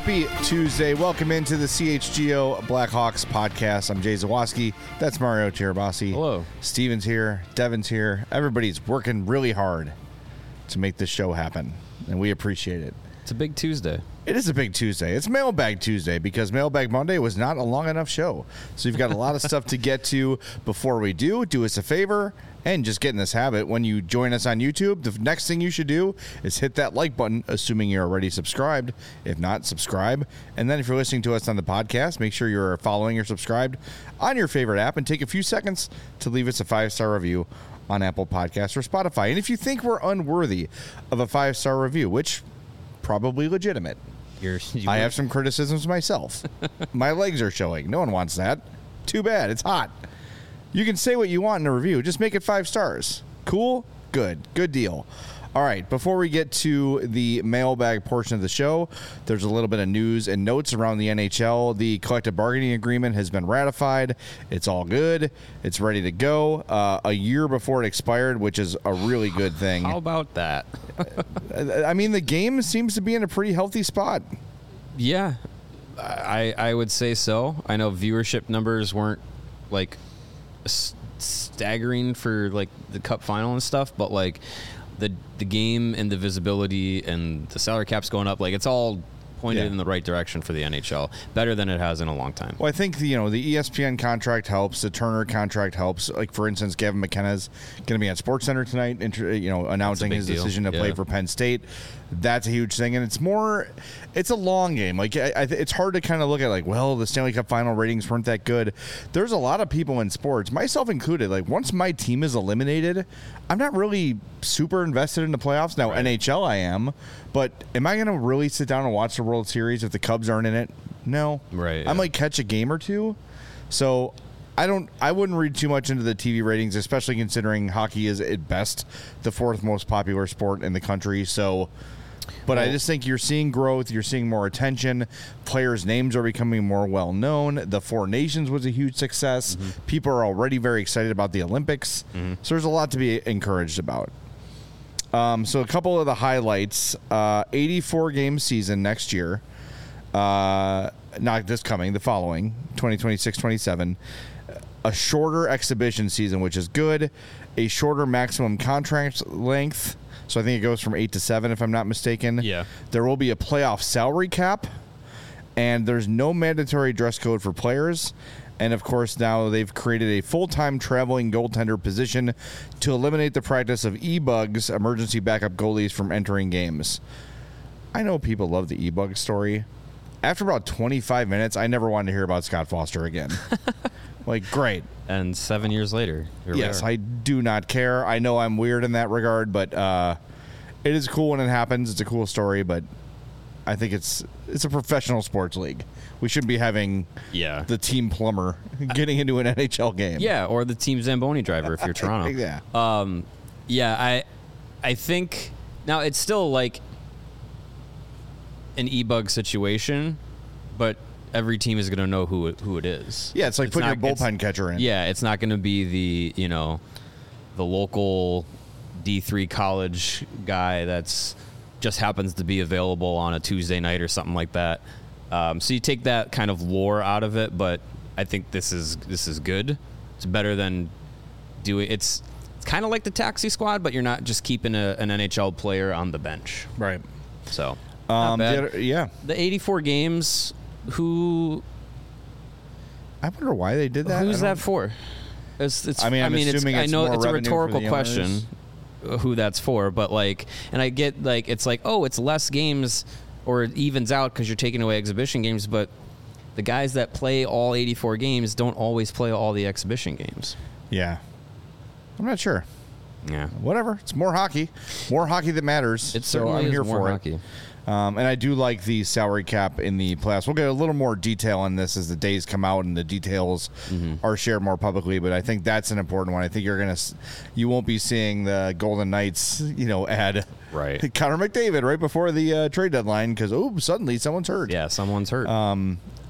Happy Tuesday. Welcome into the CHGO Blackhawks podcast. I'm Jay Zawoski. That's Mario Tirabassi. Hello. Steven's here. Devin's here. Everybody's working really hard to make this show happen, and we appreciate it. It's a big Tuesday. It is a big Tuesday. It's Mailbag Tuesday because Mailbag Monday was not a long enough show. So you've got a lot of stuff to get to. Before we do us a favor and just get in this habit. When you join us on YouTube, the next thing you should do is hit that like button, assuming you're already subscribed. If not, subscribe. And then if you're listening to us on the podcast, make sure you're following or subscribed on your favorite app and take a few seconds to leave us a 5-star review on Apple Podcasts or Spotify. And if you think we're unworthy of a 5-star review, which probably legitimate, I have some criticisms myself. My legs are showing. No one wants that. Too bad. It's hot. You can say what you want in a review. Just make it 5 stars. Cool? Good. Good deal. All right. Before we get to the mailbag portion of the show, there's a little bit of news and notes around the NHL. The collective bargaining agreement has been ratified. It's all good. It's ready to go. A year before it expired, which is a really good thing. How about that? I mean, the game seems to be in a pretty healthy spot. Yeah, I would say so. I know viewership numbers weren't like staggering for like the Cup final and stuff, but like the game and the visibility and the salary cap's going up, like it's all pointed in the right direction for the NHL, better than it has in a long time. Well, I think the ESPN contract helps, the Turner contract helps. Like for instance, Gavin McKenna's going to be on SportsCenter tonight, announcing his decision to play for Penn State. That's a huge thing, and it's a long game. Like it's hard to kind of look at like, well, the Stanley Cup final ratings weren't that good. There's a lot of people in sports, myself included. Like once my team is eliminated, I'm not really super invested in the playoffs. Now NHL I am, but am I going to really sit down and watch the World Series if the Cubs aren't in it? No. Right. I might catch a game or two. So I wouldn't read too much into the TV ratings, especially considering hockey is at best the 4th most popular sport in the country. So, but I just think you're seeing growth. You're seeing more attention. Players' names are becoming more well-known. The Four Nations was a huge success. Mm-hmm. People are already very excited about the Olympics. Mm-hmm. So there's a lot to be encouraged about. So a couple of the highlights, 84-game season next year, not this coming, the following, 2026-27, a shorter exhibition season, which is good, a shorter maximum contract length, so I think it goes from 8 to 7 if I'm not mistaken. Yeah. There will be a playoff salary cap, and there's no mandatory dress code for players. And, of course, now they've created a full-time traveling goaltender position to eliminate the practice of e-bugs, emergency backup goalies, from entering games. I know people love the e-bug story. After about 25 minutes, I never wanted to hear about Scott Foster again. Like, great. And 7 years later. Yes, I do not care. I know I'm weird in that regard, but it is cool when it happens. It's a cool story, but I think it's a professional sports league. We shouldn't be having the team plumber getting into an NHL game. Yeah, or the team Zamboni driver if you're Toronto. Yeah. I think now it's still like an e-bug situation, but every team is going to know who it is. Yeah, it's like putting your bullpen catcher in. Yeah, it's not going to be the local D3 college guy that's just happens to be available on a Tuesday night or something like that. So you take that kind of lore out of it, but I think this is good. It's better than doing. It's kind of like the taxi squad, but you're not just keeping an NHL player on the bench. Right. So not bad. The 84 games. Who? I wonder why they did that. Who's that for? I'm assuming I know it's a rhetorical question. Who that's for, but and I get it's it's less games or it evens out because you're taking away exhibition games, but the guys that play all 84 games don't always play all the exhibition games. Yeah. I'm not sure. Yeah. Whatever. It's more hockey. More hockey that matters. I'm here for hockey. And I do like the salary cap in the playoffs. We'll get a little more detail on this as the days come out and the details are shared more publicly. But I think that's an important one. I think you won't be seeing the Golden Knights, add Connor McDavid right before the trade deadline because suddenly someone's hurt. Yeah, someone's hurt.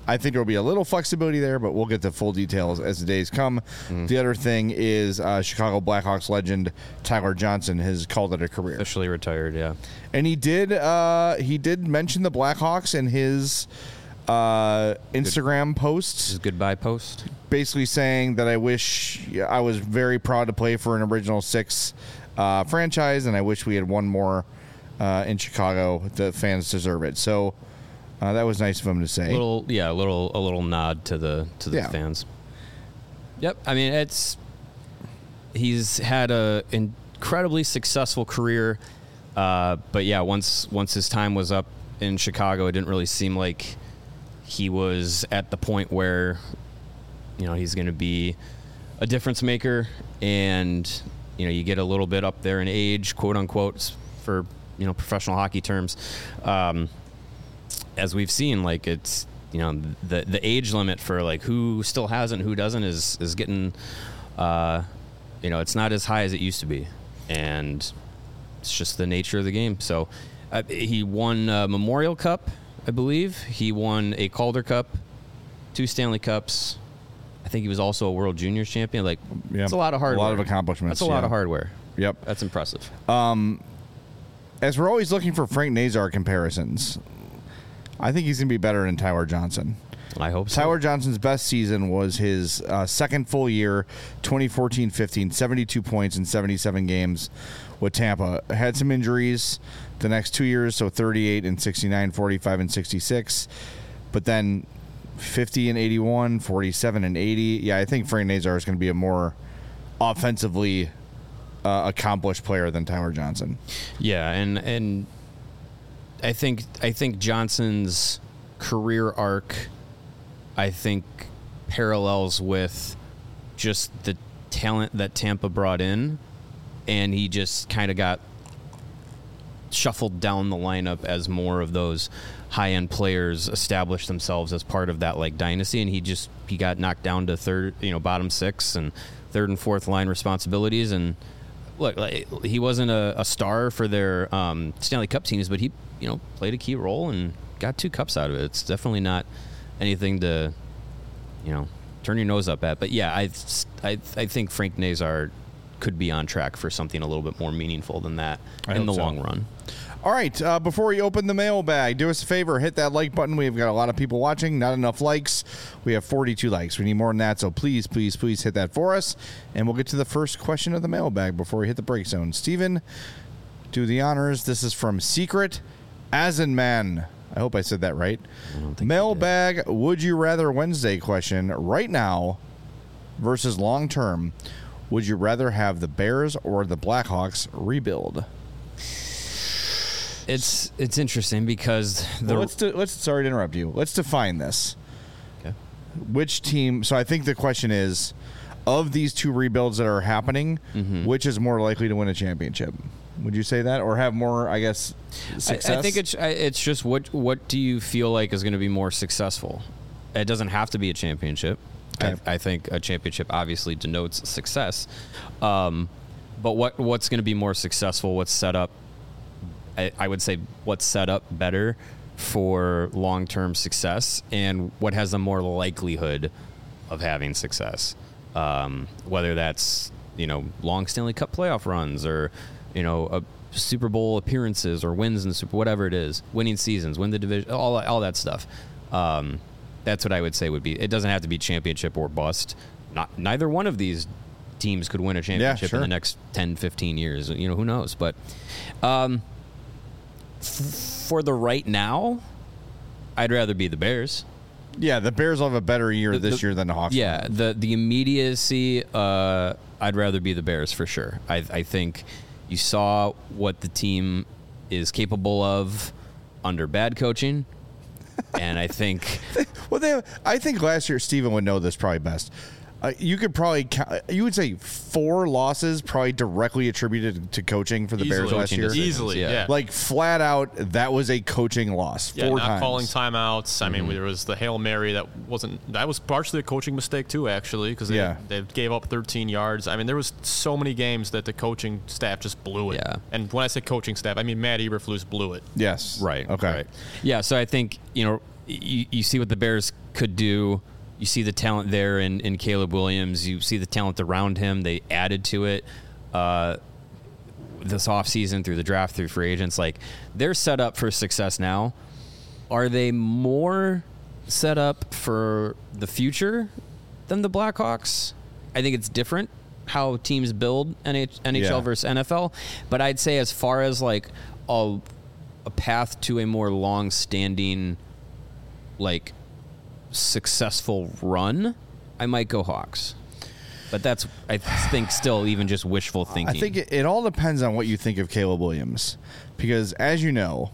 I think there will be a little flexibility there, but we'll get the full details as the days come. The other thing is Chicago Blackhawks legend Tyler Johnson has called it a career. Officially retired, yeah. And he did mention the Blackhawks in his Instagram posts. His goodbye post. Basically saying that I wish I was very proud to play for an original six franchise, and I wish we had one more in Chicago. The fans deserve it. So that was nice of him to say. A little nod to the fans. Yep. I mean, he's had a incredibly successful career, but yeah, once his time was up in Chicago, it didn't really seem like he was at the point where he's going to be a difference maker, and you get a little bit up there in age, quote unquote, for professional hockey terms. As we've seen, like it's the age limit for like who still has it and who doesn't is getting it's not as high as it used to be, and it's just the nature of the game. So he won Memorial Cup, I believe. He won a Calder Cup, 2 Stanley Cups. I think he was also a World Juniors champion. Like, it's a lot of hardware. A lot of accomplishments. That's a lot of hardware. Yep. That's impressive. As we're always looking for Frank Nazar comparisons, I think he's going to be better than Tyler Johnson. I hope so. Tyler Johnson's best season was his second full year, 2014-15, 72 points in 77 games with Tampa. Had some injuries the next 2 years, so 38 and 69, 45 and 66. But then 50 and 81, 47 and 80. Yeah, I think Frank Nazar is going to be a more offensively accomplished player than Tyler Johnson. Yeah, and I think Johnson's career arc, I think, parallels with just the talent that Tampa brought in, and he just kind of got shuffled down the lineup as more of those high-end players established themselves as part of that like dynasty, and he got knocked down to third, bottom six and third and fourth line responsibilities. And look, like, he wasn't a star for their Stanley Cup teams, but he played a key role and got 2 cups out of it. It's definitely not anything to turn your nose up at. But yeah, I think Frank Nazar could be on track for something a little bit more meaningful than that in the long run. All right, before we open the mailbag, do us a favor, hit that like button. We've got a lot of people watching, not enough likes. We have 42 likes. We need more than that, so please, please, please hit that for us. And we'll get to the first question of the mailbag before we hit the break zone. Steven, do the honors. This is from Secret Asenman. I hope I said that right. Mailbag, would you rather Wednesday question right now versus long term. Would you rather have the Bears or the Blackhawks rebuild? It's interesting because let's sorry to interrupt you. Let's define this. Okay. Which team? So I think the question is, of these 2 rebuilds that are happening, which is more likely to win a championship? Would you say that, or have more, I guess, success? I think it's just what do you feel like is going to be more successful? It doesn't have to be a championship. Okay. I think a championship obviously denotes success, but what's going to be more successful? What's set up? I would say what's set up better for long-term success, and what has a more likelihood of having success. Whether that's long Stanley Cup playoff runs, or a Super Bowl appearances, or wins in Super, whatever it is, winning seasons, win the division, all that stuff. That's what I would say would be. It doesn't have to be championship or bust. Neither one of these teams could win a championship in the next 10, 15 years. Who knows? But for the right now, I'd rather be the Bears. Yeah, the Bears will have a better year this year than the Hawks. Yeah, the immediacy, I'd rather be the Bears for sure. I think you saw what the team is capable of under bad coaching, and I think... I think last year, Steven would know this probably best. You could probably you would say 4 losses probably directly attributed to coaching for the Bears last year. Easily, yeah. Like flat out, that was a coaching loss. 4 times. Not calling timeouts. I mean, there was the Hail Mary that was partially a coaching mistake too, actually, because they gave up 13 yards. I mean, there was so many games that the coaching staff just blew it. Yeah. And when I say coaching staff, I mean Matt Eberflus blew it. Yes. Right. Okay. Right. Yeah. So I think you see what the Bears could do. You see the talent there in Caleb Williams. You see the talent around him. They added to it this offseason through the draft, through free agents. Like, they're set up for success now. Are they more set up for the future than the Blackhawks? I think it's different how teams build NHL versus NFL. But I'd say as far as like a path to a more long-standing, like, successful run, I might go Hawks. But that's, I think, still even just wishful thinking. I think it all depends on what you think of Caleb Williams. Because, as you know,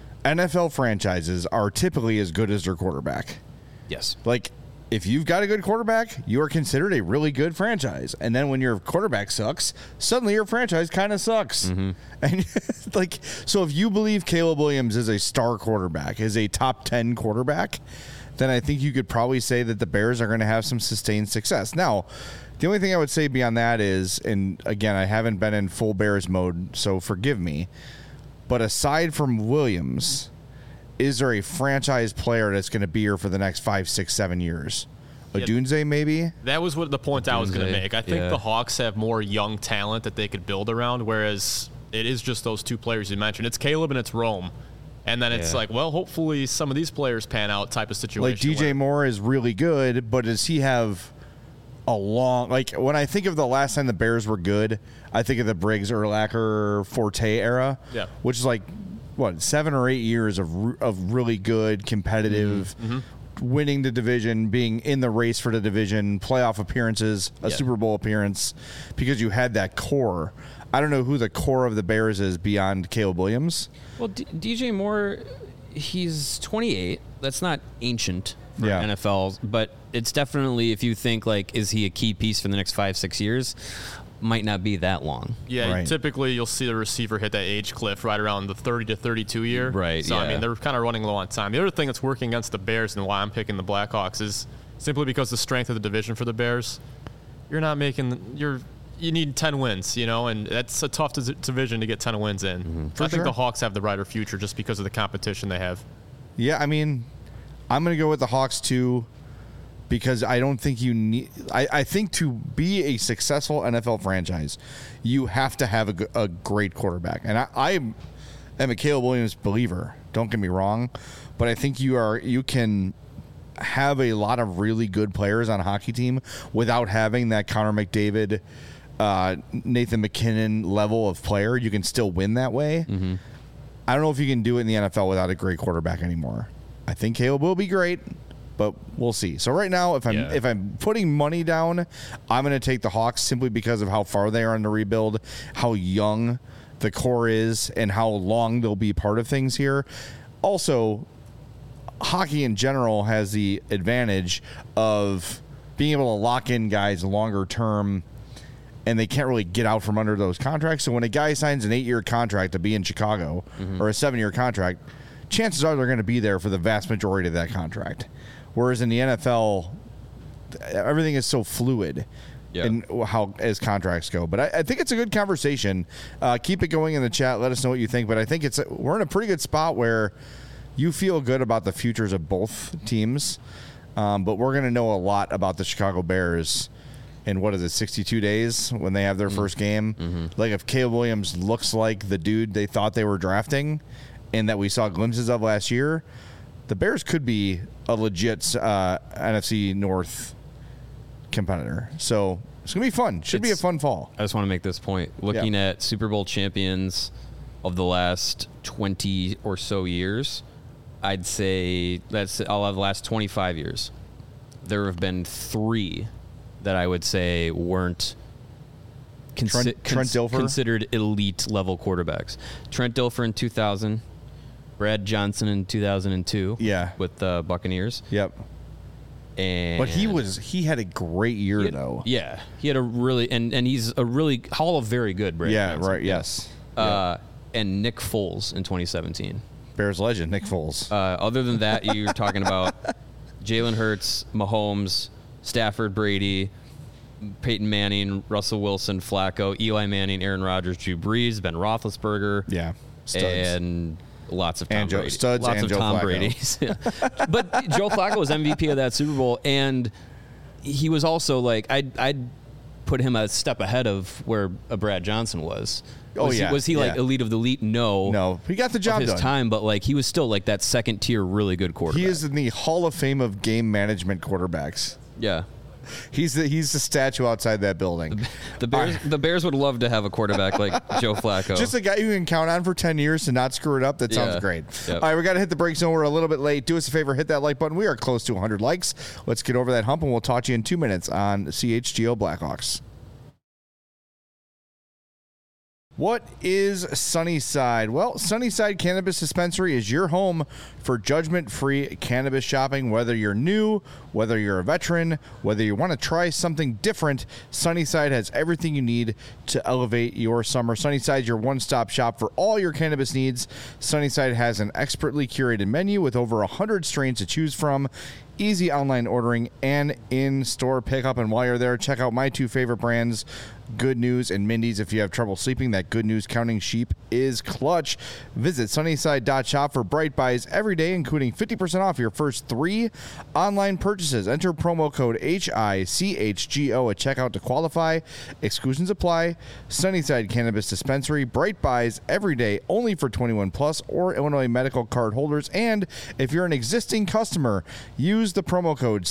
NFL franchises are typically as good as their quarterback. Yes. Like, if you've got a good quarterback, you are considered a really good franchise. And then when your quarterback sucks, suddenly your franchise kind of sucks. Mm-hmm. And like, so if you believe Caleb Williams is a star quarterback, is a top 10 quarterback, then I think you could probably say that the Bears are going to have some sustained success. Now, the only thing I would say beyond that is, and again, I haven't been in full Bears mode, so forgive me, but aside from Williams, is there a franchise player that's going to be here for the next 5, 6, 7 years? Odunze, maybe? That was what the point I was going to make. I think the Hawks have more young talent that they could build around, whereas it is just those two players you mentioned. It's Caleb and it's Rome. And then it's like, well, hopefully some of these players pan out type of situation. Like DJ Moore is really good, but does he have a long... Like, when I think of the last time the Bears were good, I think of the Briggs, Urlacher, Forte era, which is like, what, 7 or 8 years of really good, competitive, winning the division, being in the race for the division, playoff appearances, a Super Bowl appearance, because you had that core. I don't know who the core of the Bears is beyond Caleb Williams. Well, DJ Moore, he's 28. That's not ancient for NFL, but it's definitely, if you think, like, is he a key piece for the next 5, 6 years? Might not be that long. Yeah, right. Typically you'll see the receiver hit that age cliff right around the 30 to 32 year. Right, So, I mean, they're kind of running low on time. The other thing that's working against the Bears and why I'm picking the Blackhawks is simply because the strength of the division for the Bears. You need 10 wins, and that's a tough division to get 10 wins in. Mm-hmm. I think the Hawks have the brighter future just because of the competition they have. Yeah, I mean, I'm going to go with the Hawks too, because I don't think you need... I think to be a successful NFL franchise, you have to have a great quarterback. And I am a Caleb Williams believer, don't get me wrong, but I think you can have a lot of really good players on a hockey team without having that Connor McDavid, Nathan McKinnon level of player. You can still win that way. Mm-hmm. I don't know if you can do it in the NFL without a great quarterback anymore. I think Caleb will be great, but we'll see. So right now, if I'm putting money down, I'm going to take the Hawks simply because of how far they are in the rebuild, how young the core is, and how long they'll be part of things here. Also, hockey in general has the advantage of being able to lock in guys longer term, and they can't really get out from under those contracts. So when a guy signs an 8-year contract to be in Chicago, or a 7-year contract, chances are they're going to be there for the vast majority of that contract. Whereas in the NFL, everything is so fluid in how as contracts go. But I think it's a good conversation. Keep it going in the chat. Let us know what you think. But I think we're in a pretty good spot where you feel good about the futures of both teams. But we're going to know a lot about the Chicago Bears in, 62 days when they have their first game. Mm-hmm. Like, if Caleb Williams looks like the dude they thought they were drafting and that we saw glimpses of last year, the Bears could be a legit NFC North competitor. So it's going to be fun. Should be a fun fall. I just want to make this point. Looking at Super Bowl champions of the last 20 or so years, I'd say I'll have the last 25 years. There have been 3 that I would say weren't Trent Dilfer? Considered elite level quarterbacks. Trent Dilfer in 2000, Brad Johnson in 2002. With the Buccaneers. Yep. But he had a great year though. Yeah, he had a really and he's a really Hall of Very Good. Brad Johnson. Right. Yes. And Nick Foles in 2017. Bears legend Nick Foles. Other than that, you're talking about Jalen Hurts, Mahomes, Stafford, Brady, Peyton Manning, Russell Wilson, Flacco, Eli Manning, Aaron Rodgers, Drew Brees, Ben Roethlisberger. Yeah, studs. And lots of Tom Brady. Studs lots and of Joe Tom Flacco. Brady's. But Joe Flacco was MVP of that Super Bowl, and he was also like, I'd put him a step ahead of where a Brad Johnson was. Was he like elite of the elite? No, he got the job of his done. time, but like he was still like that second tier, really good quarterback. He is in the Hall of Fame of game management quarterbacks. Yeah. He's the statue outside that building. The Bears would love to have a quarterback like Joe Flacco. Just a guy you can count on for 10 years to not screw it up. That sounds great. Yep. All right, we got to hit the break zone. We're a little bit late. Do us a favor, hit that like button. We are close to 100 likes. Let's get over that hump, and we'll talk to you in 2 minutes on CHGO Blackhawks. What is Sunnyside? Well, Sunnyside Cannabis Dispensary is your home for judgment-free cannabis shopping. Whether you're new, whether you're a veteran, whether you want to try something different, Sunnyside has everything you need to elevate your summer. Sunnyside is your one-stop shop for all your cannabis needs. Sunnyside has an expertly curated menu with over 100 strains to choose from, easy online ordering, and in-store pickup. And while you're there, check out my two favorite brands, Good News and Mindy's. If you have trouble sleeping, that Good News counting sheep is clutch. Visit Sunnyside.shop for bright buys every day, including 50% off your first 3 online purchases. Enter promo code HICHGO at checkout to qualify. Exclusions apply. Sunnyside Cannabis Dispensary. Bright buys every day, only for 21 plus or Illinois medical card holders. And if you're an existing customer, use the promo code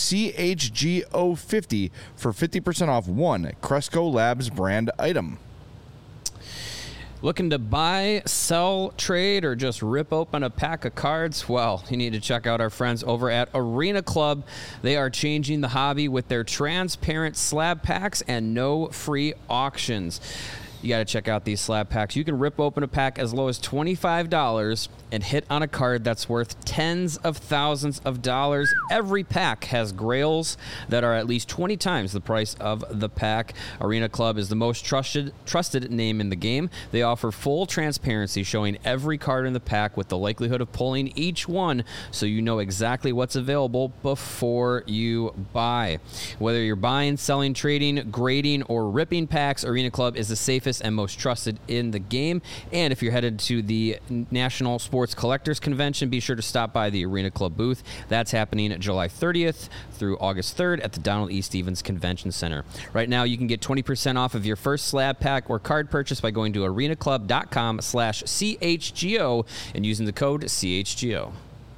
CHGO50 for 50% off one Cresco Labs brand item. Looking to buy, sell, trade, or just rip open a pack of cards? Well, you need to check out our friends over at Arena Club. They are changing the hobby with their transparent slab packs and no free auctions. You got to check out these slab packs. You can rip open a pack as low as $25 and hit on a card that's worth tens of thousands of dollars. Every pack has grails that are at least 20 times the price of the pack. Arena Club is the most trusted name in the game. They offer full transparency, showing every card in the pack with the likelihood of pulling each one, so you know exactly what's available before you buy. Whether you're buying, selling, trading, grading, or ripping packs, Arena Club is the safest and most trusted in the game. And if you're headed to the National Sports Collectors Convention, be sure to stop by the Arena Club booth. That's happening July 30th through August 3rd at the Donald E. Stevens Convention Center. Right now, you can get 20% off of your first slab pack or card purchase by going to arenaclub.com/CHGO and using the code CHGO.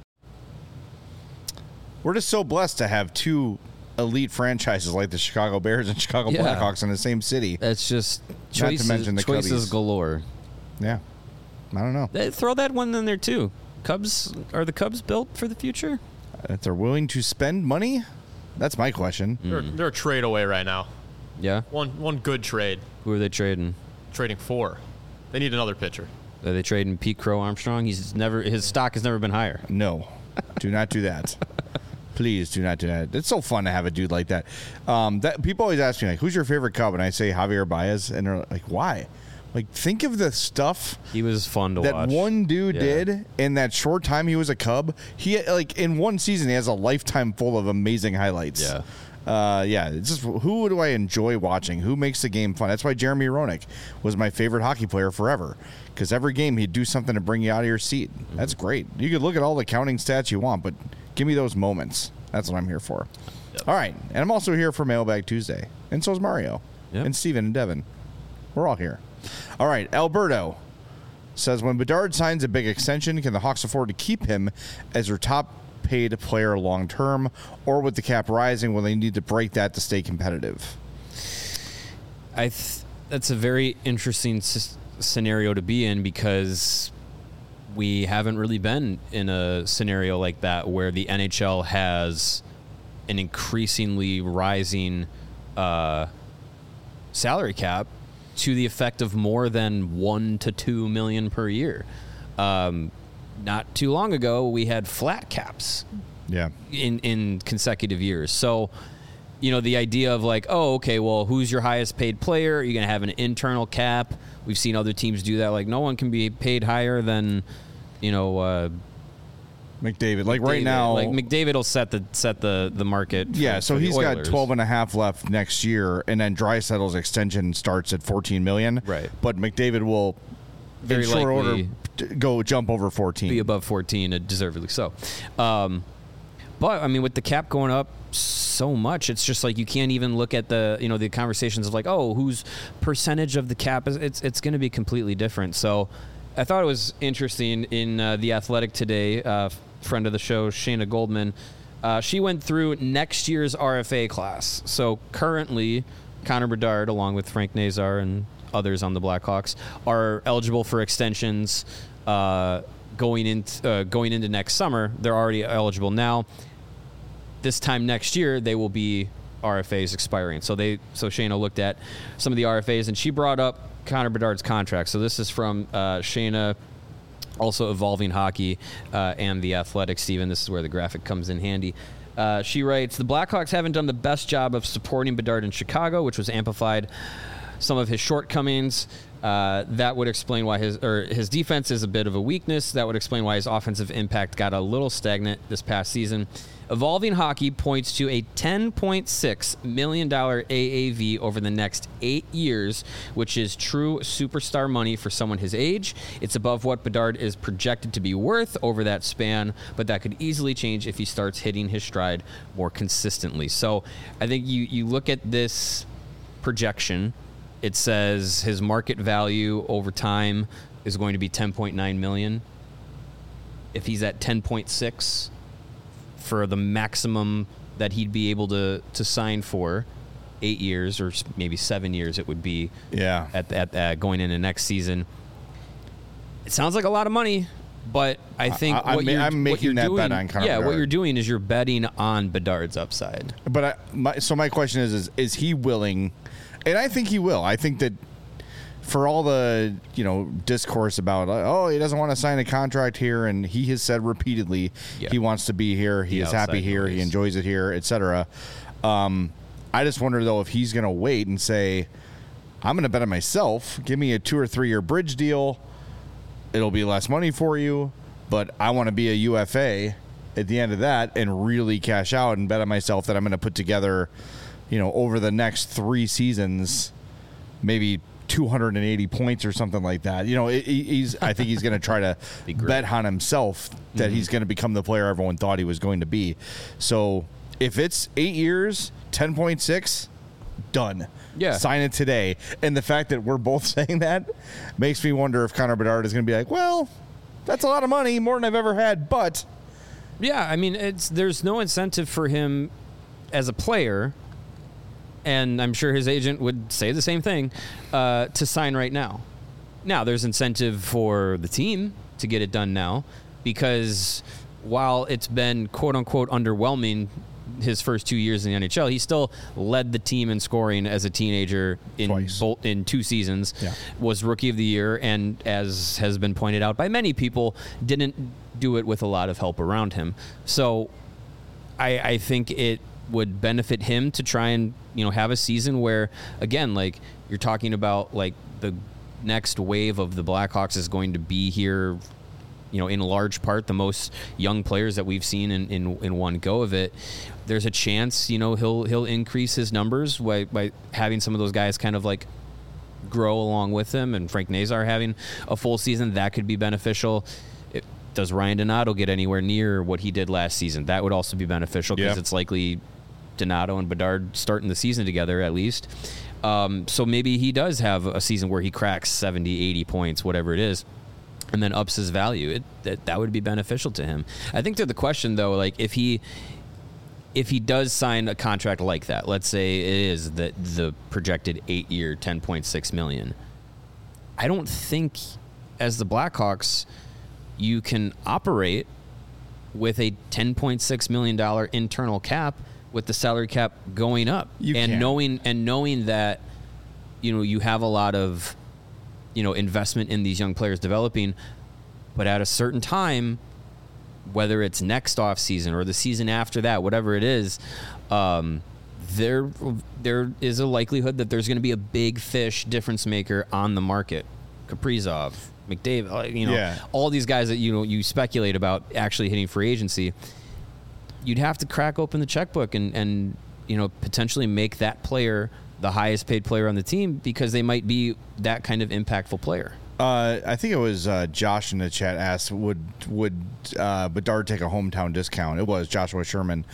We're just so blessed to have two elite franchises like the Chicago Bears and Chicago Blackhawks in the same city. That's just Not to mention the choices Cubbies. Galore. Yeah. I don't know. Throw that one in there, too. Are the Cubs built for the future? If they're willing to spend money, that's my question. They're a trade away right now. Yeah? One good trade. Who are they trading? Trading 4. They need another pitcher. Are they trading Pete Crow Armstrong? His stock has never been higher. No. Do not do that. Please do not do that. It's so fun to have a dude like that. That people always ask me, like, who's your favorite Cub? And I say Javier Baez. And they're like, why? Like, think of the stuff he was fun to that watch. one dude did in that short time he was a Cub. He, like, in one season, he has a lifetime full of amazing highlights. Yeah. It's just, who do I enjoy watching? Who makes the game fun? That's why Jeremy Roenick was my favorite hockey player forever, because every game he'd do something to bring you out of your seat. Mm-hmm. That's great. You could look at all the counting stats you want, but give me those moments. That's what I'm here for. Yep. All right, and I'm also here for Mailbag Tuesday, and so is Mario, and Steven and Devin. We're all here. All right, Alberto says, when Bedard signs a big extension, can the Hawks afford to keep him as their top paid player long term, or with the cap rising, will they need to break that to stay competitive? That's a very interesting scenario to be in, because we haven't really been in a scenario like that where the NHL has an increasingly rising salary cap to the effect of more than $1 to $2 million per year. Not too long ago, we had flat caps. Yeah. In consecutive years. So, the idea of like, oh, okay, well, who's your highest paid player? You're going to have an internal cap. We've seen other teams do that. Like, no one can be paid higher than, McDavid. Like right now, like McDavid will set the market. So he's got 12.5 left next year, and then Draisaitl's extension starts at $14 million. Right. But McDavid will very in short likely order go jump over 14. Be above 14, deservedly so. But I mean, with the cap going up so much, it's just like you can't even look at the the conversations of like, oh, whose percentage of the cap is. It's going to be completely different. So I thought it was interesting in The Athletic today. Friend of the show, Shayna Goldman, she went through next year's RFA class. So currently, Connor Bedard, along with Frank Nazar and others on the Blackhawks, are eligible for extensions going into next summer. They're already eligible now. This time next year, they will be RFAs expiring. So Shayna looked at some of the RFAs, and she brought up Connor Bedard's contract. So this is from Shayna, also Evolving Hockey and The Athletic. Steven, this is where the graphic comes in handy. She writes, the Blackhawks haven't done the best job of supporting Bedard in Chicago, which was amplified some of his shortcomings. That would explain why his defense is a bit of a weakness. That would explain why his offensive impact got a little stagnant this past season. Evolving Hockey points to a $10.6 million AAV over the next 8 years, which is true superstar money for someone his age. It's above what Bedard is projected to be worth over that span, but that could easily change if he starts hitting his stride more consistently. So I think you look at this projection. It says his market value over time is going to be $10.9 million. If he's at 10.6 for the maximum that he'd be able to sign for 8 years or maybe 7 years, it would be at going into next season. It sounds like a lot of money, but I think I'm making that bet on Connor Bedard. What you're doing is you're betting on Bedard's upside. But my question is he willing? And I think he will. I think that for all the discourse about he doesn't want to sign a contract here, and he has said repeatedly he wants to be here, he is happy here, he enjoys it here, etc. I just wonder though if he's going to wait and say, I'm going to bet on myself. Give me a 2 or 3 year bridge deal. It'll be less money for you, but I want to be a UFA at the end of that and really cash out and bet on myself that I'm going to put together, over the next 3 seasons, maybe 280 points or something like that. I think he's going to try to bet on himself that he's going to become the player everyone thought he was going to be. So if it's 8 years, 10.6, done. Yeah. Sign it today. And the fact that we're both saying that makes me wonder if Connor Bedard is going to be like, well, that's a lot of money, more than I've ever had, but. Yeah, I mean, there's no incentive for him as a player, and I'm sure his agent would say the same thing, to sign right now. Now, there's incentive for the team to get it done now, because while it's been quote-unquote underwhelming his first 2 years in the NHL, he still led the team in scoring as a teenager in 2 seasons, was Rookie of the Year, and as has been pointed out by many people, didn't do it with a lot of help around him. So I think it would benefit him to try and have a season where, again, like you're talking about, like the next wave of the Blackhawks is going to be here, in large part the most young players that we've seen in one go of it. There's a chance he'll increase his numbers by having some of those guys kind of like grow along with him, and Frank Nazar having a full season, that could be beneficial. Does Ryan Donato get anywhere near what he did last season? That would also be beneficial, because it's likely Donato and Bedard starting the season together at least. So maybe he does have a season where he cracks 70, 80 points, whatever it is, and then ups his value. That would be beneficial to him. I think to the question, though, like if he does sign a contract like that, let's say it is the projected 8-year, $10.6 million, I don't think as the Blackhawks you can operate with a $10.6 million internal cap with the salary cap going up, knowing that you have a lot of investment in these young players developing, but at a certain time, whether it's next off season or the season after that, whatever it is, there is a likelihood that there's going to be a big fish difference maker on the market. Kaprizov, McDavid, all these guys that you speculate about actually hitting free agency. You'd have to crack open the checkbook and potentially make that player the highest paid player on the team, because they might be that kind of impactful player. I think it was Josh in the chat asked, would Bedard take a hometown discount? It was Joshua Sherman.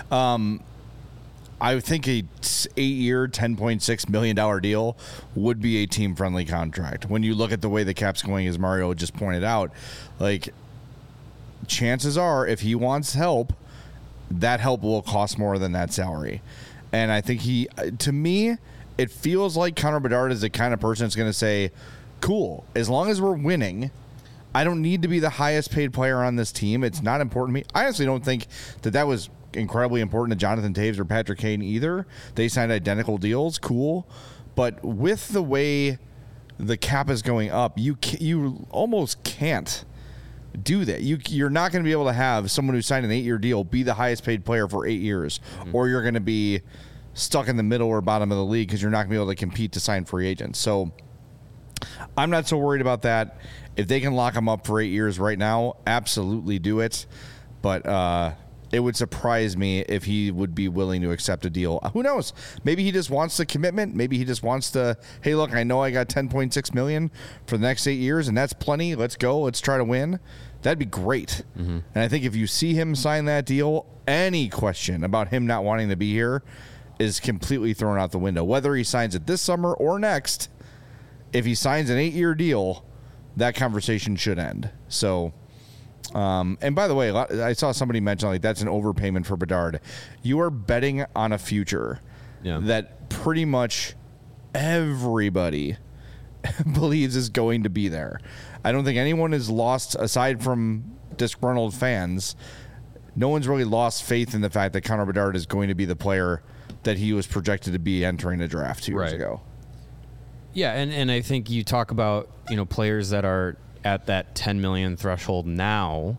I think a 8-year, $10.6 million deal would be a team-friendly contract. When you look at the way the cap's going, as Mario just pointed out, like, chances are if he wants help, that help will cost more than that salary. And I think to me, it feels like Connor Bedard is the kind of person that's going to say, cool, as long as we're winning, I don't need to be the highest paid player on this team. It's not important to me. I honestly don't think that was incredibly important to Jonathan Toews or Patrick Kane either. They signed identical deals, cool. But with the way the cap is going up, you almost can't do that. You're not going to be able to have someone who signed an 8-year deal be the highest paid player for 8 years, or you're going to be stuck in the middle or bottom of the league because you're not going to be able to compete to sign free agents. So I'm not so worried about that. If they can lock him up for 8 years right now, absolutely do it. But it would surprise me if he would be willing to accept a deal. Who knows? Maybe he just wants the commitment. Maybe he just wants to, hey, look, I know I got $10.6 million for the next 8 years, and that's plenty. Let's go. Let's try to win. That'd be great. And I think if you see him sign that deal, any question about him not wanting to be here is completely thrown out the window. Whether he signs it this summer or next, if he signs an 8-year deal, that conversation should end. So, and by the way, I saw somebody mention like that's an overpayment for Bedard. You are betting on a future that pretty much everybody believes is going to be there. I don't think anyone is lost, aside from disgruntled fans, no one's really lost faith in the fact that Connor Bedard is going to be the player that he was projected to be entering the draft 2 years ago. Yeah, and I think you talk about, players that are at that 10 million threshold now.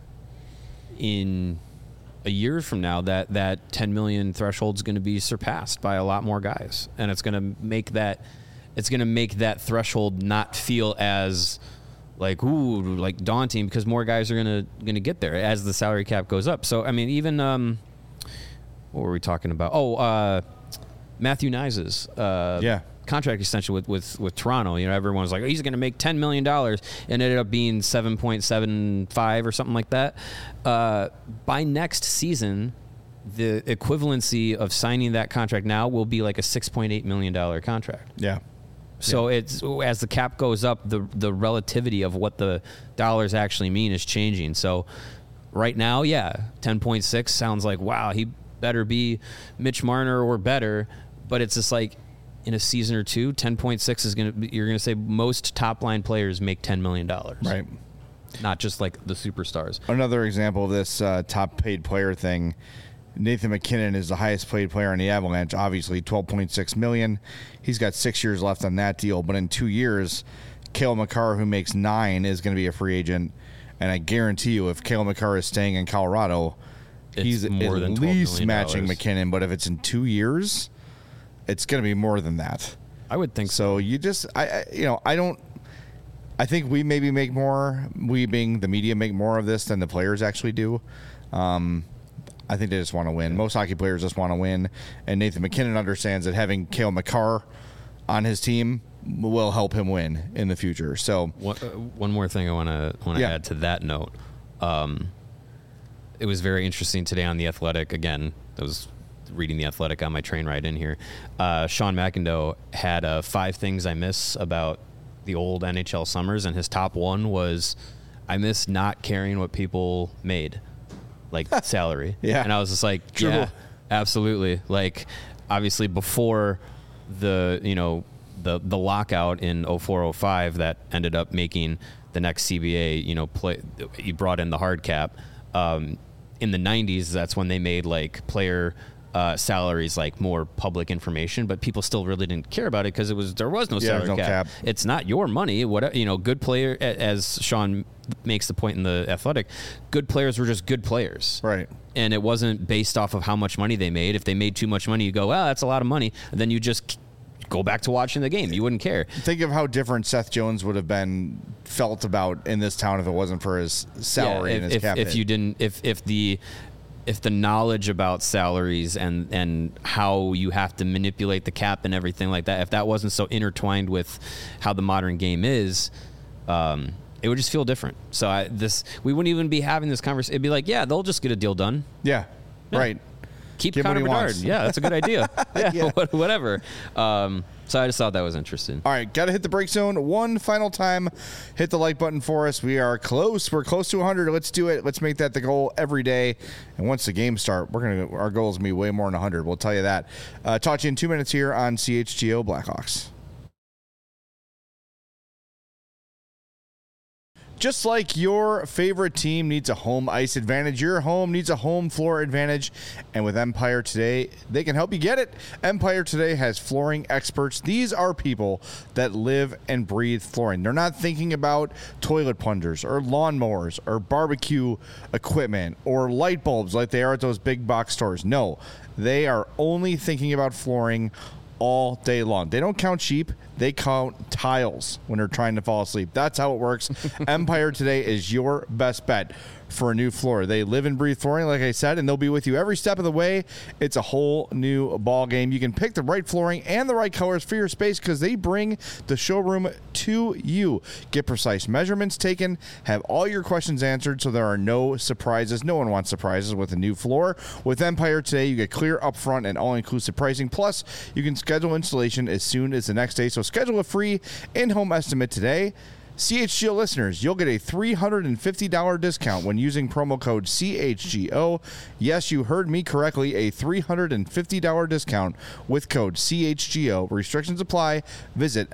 In a year from now, that 10 million threshold is going to be surpassed by a lot more guys, and it's going to make that threshold not feel as like daunting, because more guys are going to get there as the salary cap goes up. So I mean, even what were we talking about? Matthew Knies's contract extension with Toronto. Everyone was like, he's going to make $10 million, and it ended up being 7.75 or something like that. By next season, the equivalency of signing that contract now will be like a $6.8 million contract. Yeah. So it's, as the cap goes up, the relativity of what the dollars actually mean is changing. So right now, 10.6 sounds like, wow, he better be Mitch Marner or better. But it's just like, in a season or two, 10.6 is you're going to say most top line players make $10 million. Right. Not just like the superstars. Another example of this top paid player thing, Nathan McKinnon is the highest paid player on the Avalanche, obviously $12.6 million. He's got 6 years left on that deal, but in 2 years, Cale Makar, who makes $9 million, is going to be a free agent. And I guarantee you, if Cale Makar is staying in Colorado, he's more at than least matching McKinnon. But if it's in 2 years, it's going to be more than that. I would think so. You just, I think we maybe make more, we being the media, make more of this than the players actually do. I think they just want to win. Most hockey players just want to win. And Nathan McKinnon understands that having Cale Makar on his team will help him win in the future. So one more thing I want to add to that note. It was very interesting today on The Athletic. Again, I was reading The Athletic on my train ride in here. Sean McIndoe had 5 things I miss about the old NHL summers, and his top one was, I miss not caring what people made, like salary. Yeah. And I was just like, True. Yeah, absolutely. Like, obviously before the lockout in 04-05 that ended up making the next CBA, you brought in the hard cap. In the 90s, that's when they made like player salaries like more public information, but people still really didn't care about it because there was no salary cap. It's not your money. Good player, as Sean makes the point in The Athletic, good players were just good players, right? And it wasn't based off of how much money they made. If they made too much money, you go, that's a lot of money, and then you just go back to watching the game. You wouldn't care. Think of how different Seth Jones would have been felt about in this town if it wasn't for his salary and his cap hit. If you didn't, if the knowledge about salaries and how you have to manipulate the cap and everything like that, if that wasn't so intertwined with how the modern game is, it would just feel different. So we wouldn't even be having this conversation. It'd be like, yeah, they'll just get a deal done. Yeah. Right. Keep Connor Bedard. Yeah, that's a good idea. Yeah. Whatever. So I just thought that was interesting. All right, got to hit the break zone one final time. Hit the like button for us. We are close. We're close to 100. Let's do it. Let's make that the goal every day. And once the games start, our goal is going to be way more than 100. We'll tell you that. Talk to you in 2 minutes here on CHGO Blackhawks. Just like your favorite team needs a home ice advantage, your home needs a home floor advantage. And with Empire Today, they can help you get it. Empire Today has flooring experts. These are people that live and breathe flooring. They're not thinking about toilet plungers or lawnmowers or barbecue equipment or light bulbs like they are at those big box stores. No, they are only thinking about flooring all day long. They don't count sheep. They count tiles when they're trying to fall asleep. That's how it works. Empire Today is your best bet for a new floor. They live and breathe flooring, like I said, and they'll be with you every step of the way. It's a whole new ball game. You can pick the right flooring and the right colors for your space because they bring the showroom to you. Get precise measurements taken, have all your questions answered so there are no surprises. No one wants surprises with a new floor. With Empire Today, you get clear upfront and all-inclusive pricing. Plus, you can schedule installation as soon as the next day. So schedule a free in-home estimate today. CHGO listeners, you'll get a $350 discount when using promo code CHGO. Yes, you heard me correctly, a $350 discount with code CHGO. Restrictions apply. Visit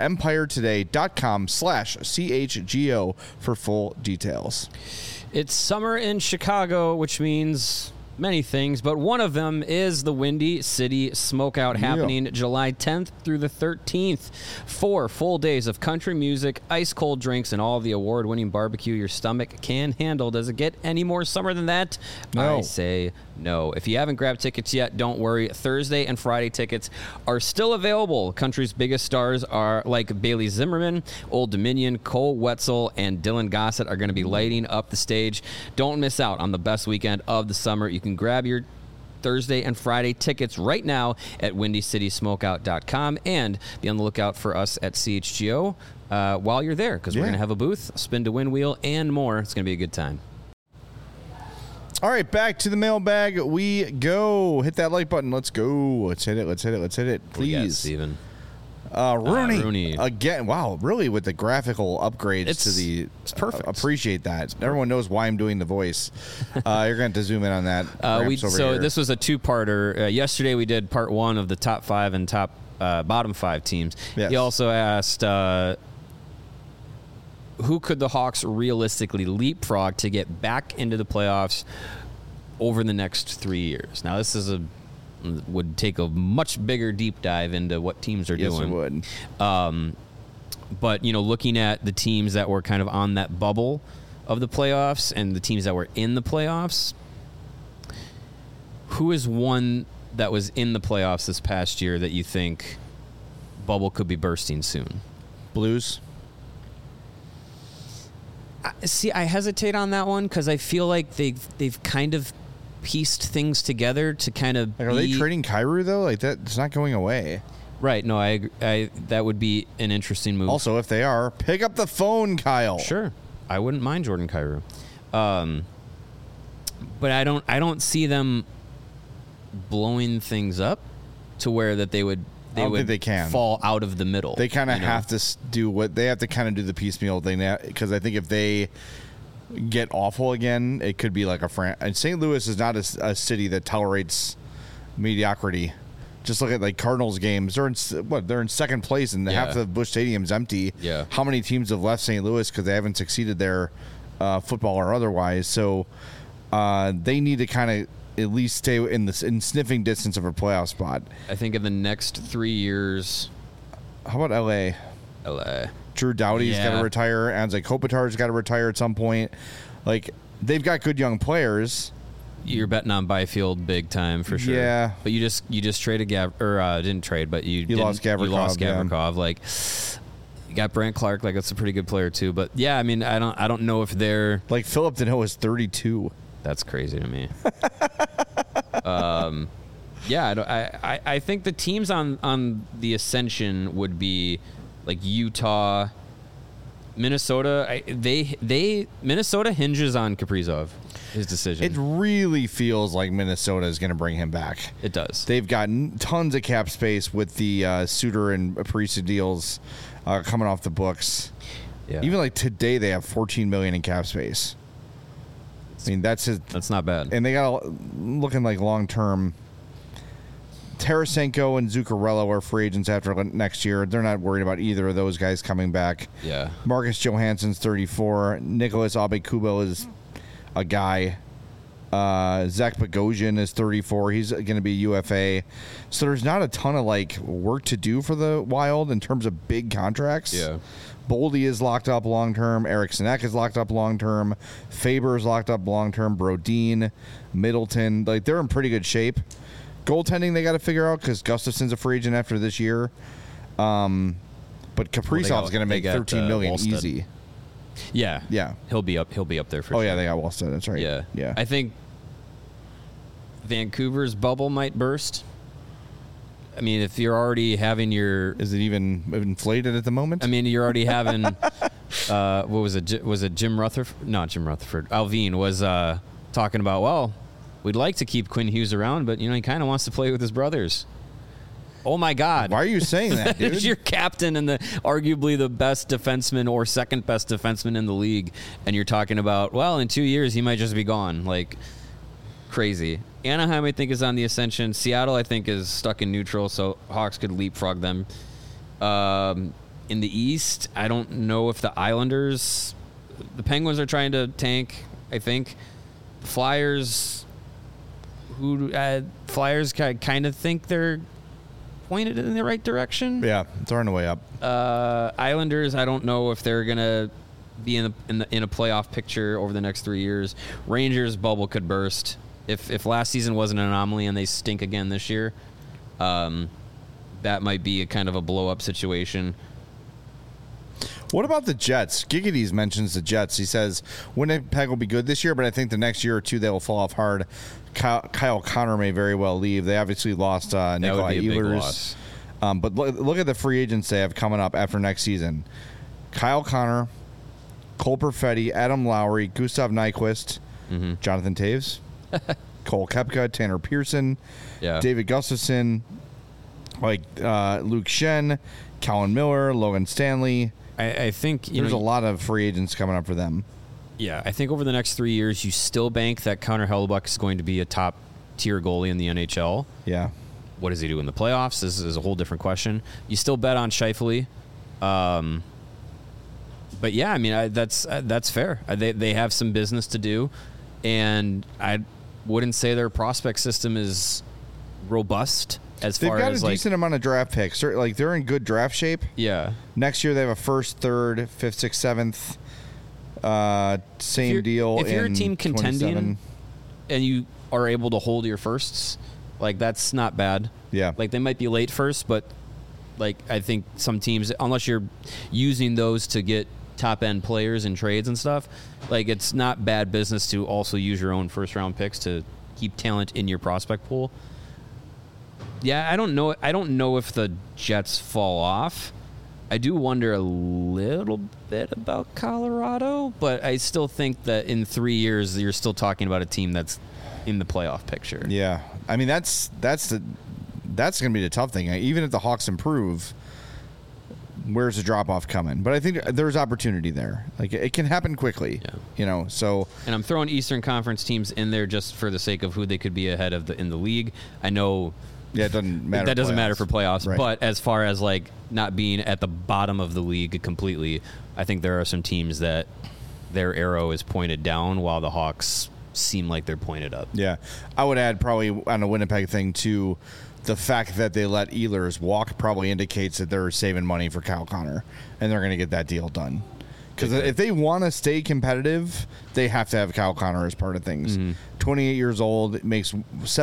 empiretoday.com/CHGO for full details. It's summer in Chicago, which means many things, but one of them is the Windy City Smokeout happening July 10th through the 13th. 4 full days of country music, ice-cold drinks, and all the award-winning barbecue your stomach can handle. Does it get any more summer than that? No. I say no. If you haven't grabbed tickets yet, don't worry. Thursday and Friday tickets are still available. Country's biggest stars are like Bailey Zimmerman, Old Dominion, Cole Wetzel, and Dylan Gossett are going to be lighting up the stage. Don't miss out on the best weekend of the summer. You can grab your Thursday and Friday tickets right now at WindyCitySmokeout.com and be on the lookout for us at CHGO while you're there because we're going to have a booth, spin to win wheel, and more. It's going to be a good time. All right, back to the mailbag we go. Hit that like button. Let's go. Let's hit it. Please. Steven. Rooney again. Wow, really with the graphical upgrades it's perfect. Appreciate that. Everyone knows why I'm doing the voice. You're going to have to zoom in on that. This was a two-parter. Yesterday we did part 1 of the top 5 and bottom 5 teams. Yes. He also asked who could the Hawks realistically leapfrog to get back into the playoffs over the next 3 years. Now this would take a much bigger deep dive into what teams are doing. Yes, it would. But, looking at the teams that were kind of on that bubble of the playoffs and the teams that were in the playoffs, who is one that was in the playoffs this past year that you think bubble could be bursting soon? Blues? I hesitate on that one because I feel like they've kind of pieced things together to kind of are they trading Kyrou though? Like that, it's not going away. Right. No, I that would be an interesting move. Also, if they are, pick up the phone, Kyle. Sure. I wouldn't mind Jordan Kyrou. But I don't see them blowing things up to where that they would fall out of the middle. They kind of have to do what they have to kind of do the piecemeal thing because I think if they get awful again, it could be like and St. Louis is not a city that tolerates mediocrity. Just look at like Cardinals games. They're in second place and half the Busch Stadium's empty. Yeah. How many teams have left St. Louis because they haven't succeeded there, football or otherwise? So they need to kind of at least stay in sniffing distance of a playoff spot. I think in the next 3 years. How about LA? Drew Doughty's got to retire. Anze Kopitar's got to retire at some point. Like, they've got good young players. You're betting on Byfield big time for sure. Yeah. But you just traded didn't trade, but you lost Gavrikov. You lost Gavrikov. Yeah. Like, you got Brant Clark. Like, that's a pretty good player too. But yeah, I mean, I don't know if they're like Philip Deneau is 32. That's crazy to me. I think the teams on the ascension would be like Utah, Minnesota, Minnesota hinges on Kaprizov, his decision. It really feels like Minnesota is going to bring him back. It does. They've got tons of cap space with the Suter and Parise deals coming off the books. Yeah. Even like today, they have $14 million in cap space. I mean, that's not bad. And they got looking like long term. Tarasenko and Zuccarello are free agents after next year. They're not worried about either of those guys coming back. Yeah. Marcus Johansson's 34. Nicholas Aube-Kubel is a guy. Zach Bogosian is 34. He's going to be UFA. So there's not a ton of like work to do for the Wild in terms of big contracts. Yeah. Boldy is locked up long term. Eriksson Ek is locked up long term. Faber is locked up long term. Brodin, Middleton, like they're in pretty good shape. Goaltending they got to figure out because Gustafson's a free agent after this year. But Kaprizov's going to make $13 million easy. Yeah, yeah, he'll be up there for sure. Oh yeah, they got Wallstead. That's right. Yeah. I think Vancouver's bubble might burst. I mean, if you're already having is it even inflated at the moment? I mean, you're already having what was it? Was it Jim Rutherford? Not Jim Rutherford. Alvin was talking about, well, we'd like to keep Quinn Hughes around, but he kind of wants to play with his brothers. Oh my God! Why are you saying that, dude? You're captain and arguably the best defenseman or second best defenseman in the league, and you're talking about, well, in 2 years he might just be gone. Like crazy. Anaheim, I think, is on the ascension. Seattle, I think, is stuck in neutral, so Hawks could leapfrog them. In the East, I don't know if the Islanders, the Penguins are trying to tank. I think Flyers, kind of think they're pointed in the right direction. Yeah, it's on the way up. Islanders, I don't know if they're gonna be in a playoff picture over the next 3 years. Rangers bubble could burst if last season was an anomaly and they stink again this year. That might be a kind of a blow up situation. What about the Jets? Gigady's mentions the Jets. He says Winnipeg will be good this year, but I think the next year or two they will fall off hard. Kyle Connor may very well leave. They obviously lost Nikolai Ehlers. But look at the free agents they have coming up after next season. Kyle Connor, Cole Perfetti, Adam Lowry, Gustav Nyquist, Jonathan Taves, Cole Koepka, Tanner Pearson, David Gustafson, Luke Shen, Colin Miller, Logan Stanley. I think there's a lot of free agents coming up for them. Yeah, I think over the next 3 years, you still bank that Connor Hellebuyck is going to be a top-tier goalie in the NHL. Yeah. What does he do in the playoffs? This is a whole different question. You still bet on Scheifele. But yeah, I mean, that's fair. They have some business to do, and I wouldn't say their prospect system is robust. They've got a decent amount of draft picks. Like they're in good draft shape. Yeah. Next year they have a first, third, fifth, sixth, seventh. Same deal. If you're a team 27. contending and you are able to hold your firsts, like that's not bad. Yeah. Like they might be late first, but like I think some teams, unless you're using those to get top end players in trades and stuff, like it's not bad business to also use your own first round picks to keep talent in your prospect pool. Yeah, I don't know if the Jets fall off. I do wonder a little bit about Colorado, but I still think that in 3 years you're still talking about a team that's in the playoff picture. Yeah, I mean that's going to be the tough thing. Even if the Hawks improve, where's the drop off coming? But I think there's opportunity there. Like it can happen quickly. Yeah. So. And I'm throwing Eastern Conference teams in there just for the sake of who they could be ahead of in the league. I know. Yeah, it doesn't matter. That doesn't matter for playoffs. Right. But as far as like not being at the bottom of the league completely, I think there are some teams that their arrow is pointed down while the Hawks seem like they're pointed up. Yeah. I would add probably on the Winnipeg thing too, the fact that they let Ehlers walk probably indicates that they're saving money for Kyle Connor and they're going to get that deal done. Because if they want to stay competitive, they have to have Kyle Connor as part of things. 28 years old, makes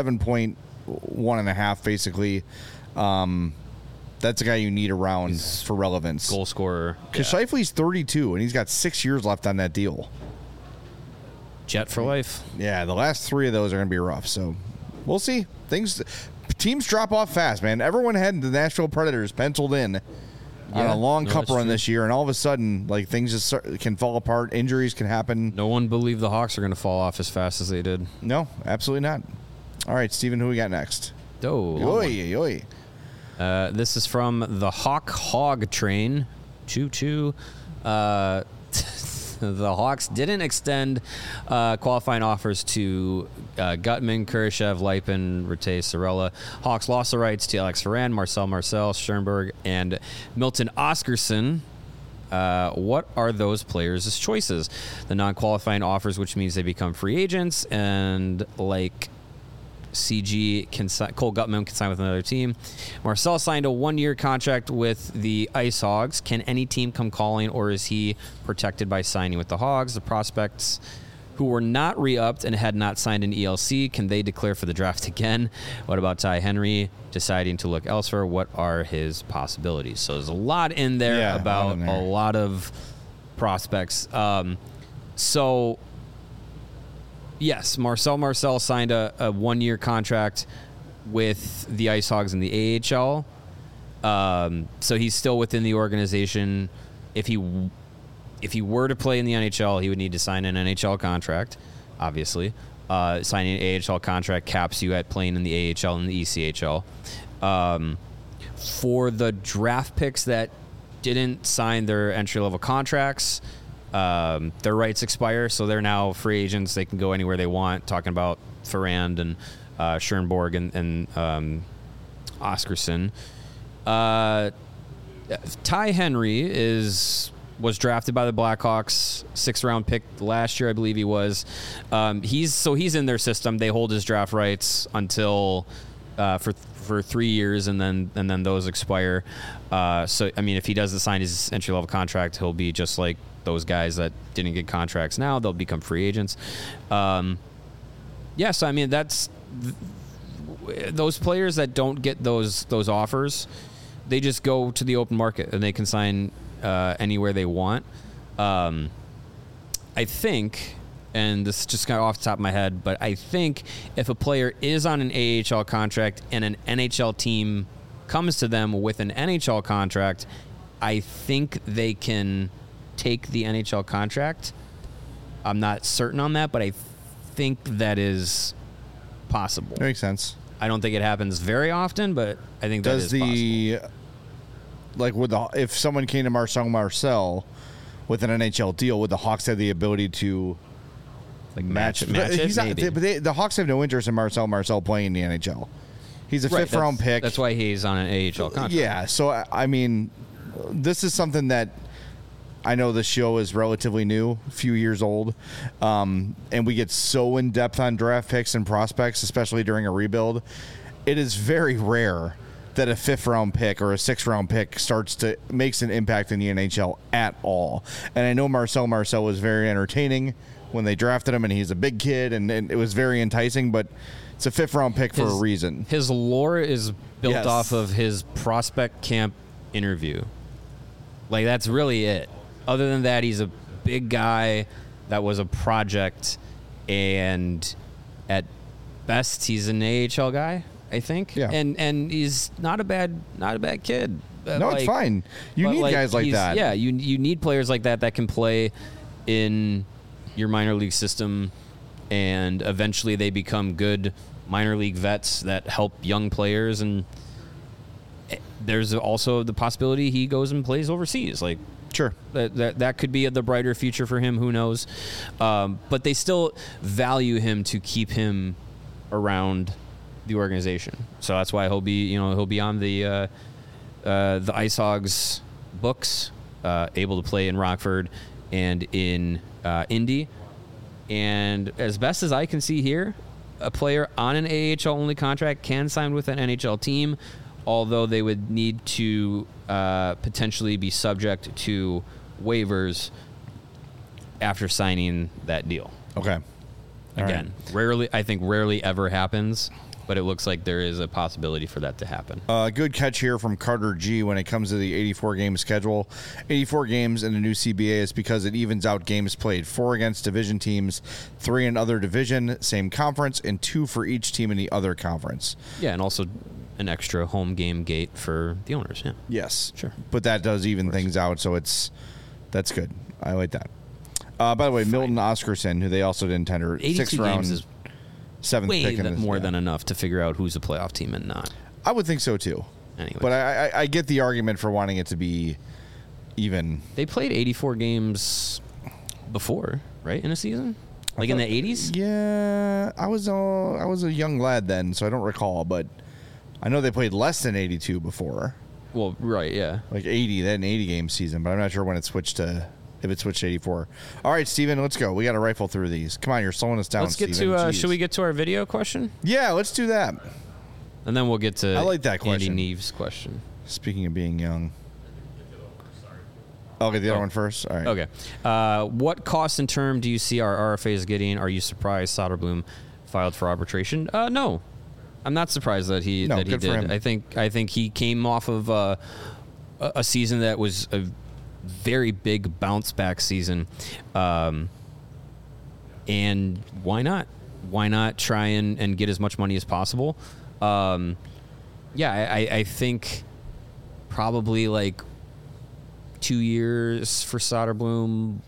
7.1.5 basically. That's a guy you need around for relevance. Goal scorer. Because Scheifele's 32, and he's got 6 years left on that deal. Jet for life. Yeah, the last 3 of those are going to be rough. So we'll see. Teams drop off fast, man. Everyone had the Nashville Predators penciled in. on a long cup run this year, and all of a sudden, like, things just can fall apart. Injuries can happen. No one believed the Hawks are going to fall off as fast as they did. No, absolutely not. All right, Steven, who we got next? This is from the Hawk Hog Train. Choo-choo. The Hawks didn't extend qualifying offers to Gutman, Kurashev, Lipin, Rattay, Sorella. Hawks lost the rights to Alex Ferrand, Marcel, Schoenberg, and Milton Oscarsson. What are those players' choices? The non-qualifying offers, which means they become free agents, and like CG Cole Gutman can sign with another team. Marcel signed a 1-year contract with the Ice Hogs. Can any team come calling, or is he protected by signing with the Hogs? The prospects who were not re-upped and had not signed an ELC, can they declare for the draft again? What about Ty Henry deciding to look elsewhere? What are his possibilities? So there's a lot in there about a lot of prospects. Yes, Marcel signed a 1-year contract with the Ice Hogs in the AHL. So he's still within the organization. If he were to play in the NHL, he would need to sign an NHL contract, obviously. Signing an AHL contract caps you at playing in the AHL and the ECHL. For the draft picks that didn't sign their entry-level contracts, their rights expire, so they're now free agents. They can go anywhere they want. Talking about Ferrand and Schoenberg and Oscarsson. Ty Henry was drafted by the Blackhawks, 6th-round pick last year, I believe he was. He's in their system. They hold his draft rights until for 3 years, and then those expire. So I mean, if he doesn't sign his entry-level contract, he'll be just like those guys that didn't get contracts now. They'll become free agents. So I mean, that's those players that don't get those offers, they just go to the open market and they can sign anywhere they want. I think, and this is just kind of off the top of my head, but I think if a player is on an AHL contract and an NHL team comes to them with an NHL contract, I think they can take the NHL contract. I'm not certain on that, but I think that is possible. That makes sense. I don't think it happens very often, but I think that is possible. Like, if someone came to Marcel with an NHL deal, would the Hawks have the ability to match it? Maybe. The Hawks have no interest in Marcel playing in the NHL. He's a 5th-round pick. That's why he's on an AHL contract. Yeah, so I mean, this is something that I know the show is relatively new, a few years old, and we get so in-depth on draft picks and prospects, especially during a rebuild. It is very rare that a 5th-round pick or a 6th-round pick makes an impact in the NHL at all. And I know Marcel was very entertaining when they drafted him, and he's a big kid, and it was very enticing, but it's a 5th-round pick for a reason. His lore is built off of his prospect camp interview. Like, that's really it. Other than that, he's a big guy that was a project, and at best, he's an AHL guy, I think. Yeah. And he's not a bad kid. No, it's fine. You need guys like that. Yeah, you need players like that can play in your minor league system, and eventually they become good minor league vets that help young players. And there's also the possibility he goes and plays overseas. Like, sure, that could be the brighter future for him. Who knows? But they still value him to keep him around the organization. So that's why he'll be on the Ice Hogs books, able to play in Rockford and in Indy. And as best as I can see here, a player on an AHL only contract can sign with an NHL team, although they would need to potentially be subject to waivers after signing that deal. Okay. Again, rarely ever happens, but it looks like there is a possibility for that to happen. Good catch here from Carter G when it comes to the 84-game schedule. 84 games in the new CBA is because it evens out games played. 4 against division teams, 3 in other division, same conference, and 2 for each team in the other conference. Yeah, and also an extra home game gate for the owners. Yeah. Yes. Sure. But that does even things out, so that's good. I like that. By the way, Milton Oscarson, who they also didn't tender, 82 6th round, games is 7th way pick. more than enough to figure out who's a playoff team and not. I would think so, too. Anyway. But I get the argument for wanting it to be even. They played 84 games before, right, in a season? Like in the 80s? Yeah, I was a young lad then, so I don't recall, but I know they played less than 82 before. Well, right, yeah. Like 80, that an 80-game season, but I'm not sure when it switched to 84. All right, Steven, let's go. We got to rifle through these. Come on, you're slowing us down, Let's get Steven. to, should we get to our video question? Yeah, let's do that. And then we'll get to I like that question. Andy Neves' question. Speaking of being young. Okay, the other one first? All right. Okay. What cost and term do you see our RFAs getting? Are you surprised Soderblom filed for arbitration? No. I'm not surprised that he good for him. did. I think he came off of a season that was a very big bounce back season. And why not? Why not try and get as much money as possible? I think probably like 2 years for Soderblom,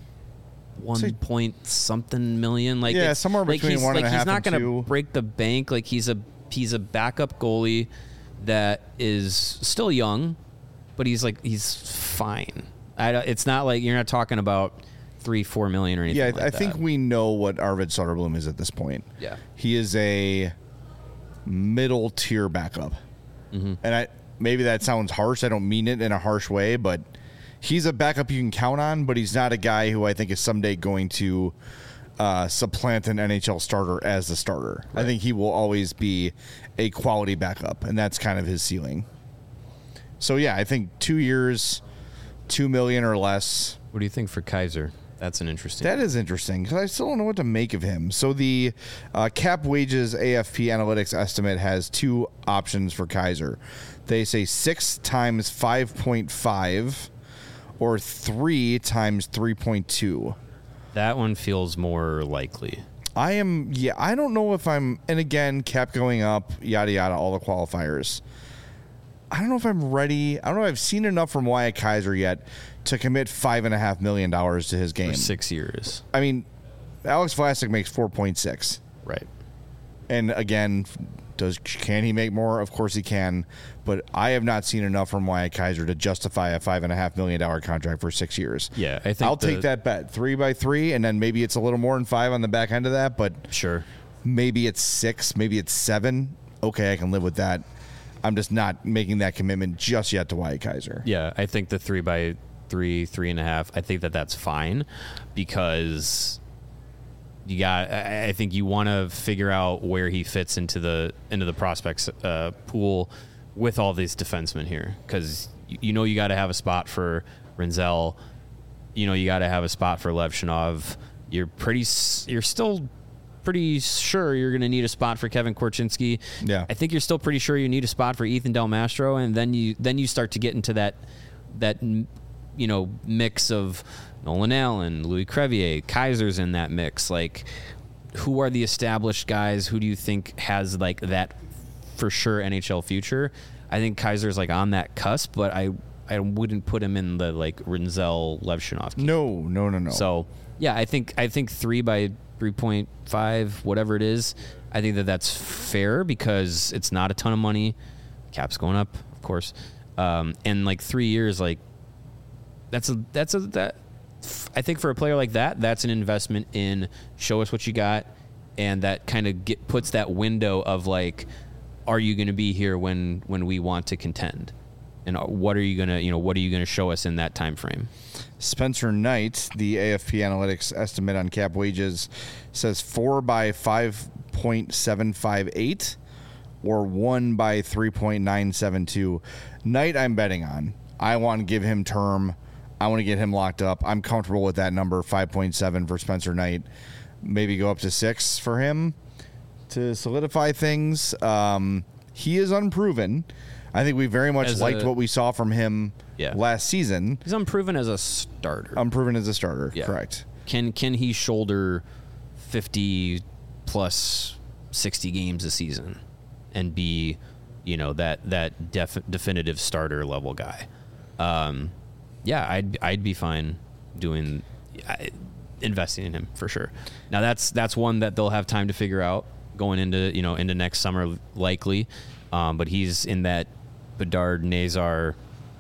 1 million. Like yeah, somewhere between he's, 1.5 and 2. He's not going to break the bank. Like he's a backup goalie that is still young, but he's fine. It's not like you're not talking about 3-4 million or anything. Yeah, like I that. think we know what Arvid Soderblom is at this point. Yeah, he is a middle tier backup, and maybe that sounds harsh. I don't mean it in a harsh way, but he's a backup you can count on. But he's not a guy who I think is someday going to supplant an NHL starter as the starter. Right. I think he will always be a quality backup, and that's kind of his ceiling. So yeah, I think 2 years, $2 million or less. What do you think for Kaiser? That's an interesting. That is interesting because I still don't know what to make of him. So the cap wages AFP analytics estimate has two options for Kaiser. They say 6 times 5.5 or 3 times 3.2. That one feels more likely. I don't know if I'm, and again, cap going up, yada, yada, all the qualifiers. I don't know if I'm ready. I don't know if I've seen enough from Wyatt Kaiser yet to commit $5.5 million to his game. For 6 years. I mean, Alex Vlasic makes 4.6. Right. And again, can he make more? Of course he can. But I have not seen enough from Wyatt Kaiser to justify a $5.5 million contract for 6 years. Yeah, I think I'll take that bet 3x3, and then maybe it's a little more than 5 on the back end of that. But sure, maybe it's 6, maybe it's 7. Okay, I can live with that. I'm just not making that commitment just yet to Wyatt Kaiser. Yeah, I think the 3x3, 3.5. I think that's fine because I think you want to figure out where he fits into the prospects pool with all these defensemen here, because you got to have a spot for Rinzel, you got to have a spot for Levshunov. You're still pretty sure you're going to need a spot for Kevin Korchinski. Yeah, I think you're still pretty sure you need a spot for Ethan Del Mastro, and then you start to get into that mix of Nolan Allen, Louis Crevier, Kaiser's in that mix. Like, who are the established guys? Who do you think has like that for sure NHL future? I think Kaiser's like on that cusp, but I wouldn't put him in the like Rinzel Levshunov. No. So yeah, I think 3 by 3.5, whatever it is. I think that's fair because it's not a ton of money. Cap's going up, of course, and like 3 years, like that. I think for a player like that, that's an investment in show us what you got, and that kind of puts that window of like, are you going to be here when we want to contend, and what are you gonna show us in that time frame? Spencer Knight, the AFP analytics estimate on cap wages, says 4 by 5.758 or 1 by 3.972. Knight, I'm betting on. I want to give him term. I want to get him locked up. I'm comfortable with that number, 5.7 for Spencer Knight. Maybe go up to 6 for him to solidify things. He is unproven. I think we very much liked what we saw from him last season. He's unproven as a starter. Unproven as a starter, correct. Can he shoulder 50 plus 60 games a season and be, you know, that definitive starter level guy. I'd be fine investing in him for sure. Now that's one that they'll have time to figure out going into next summer likely. But he's in that Bedard Nazar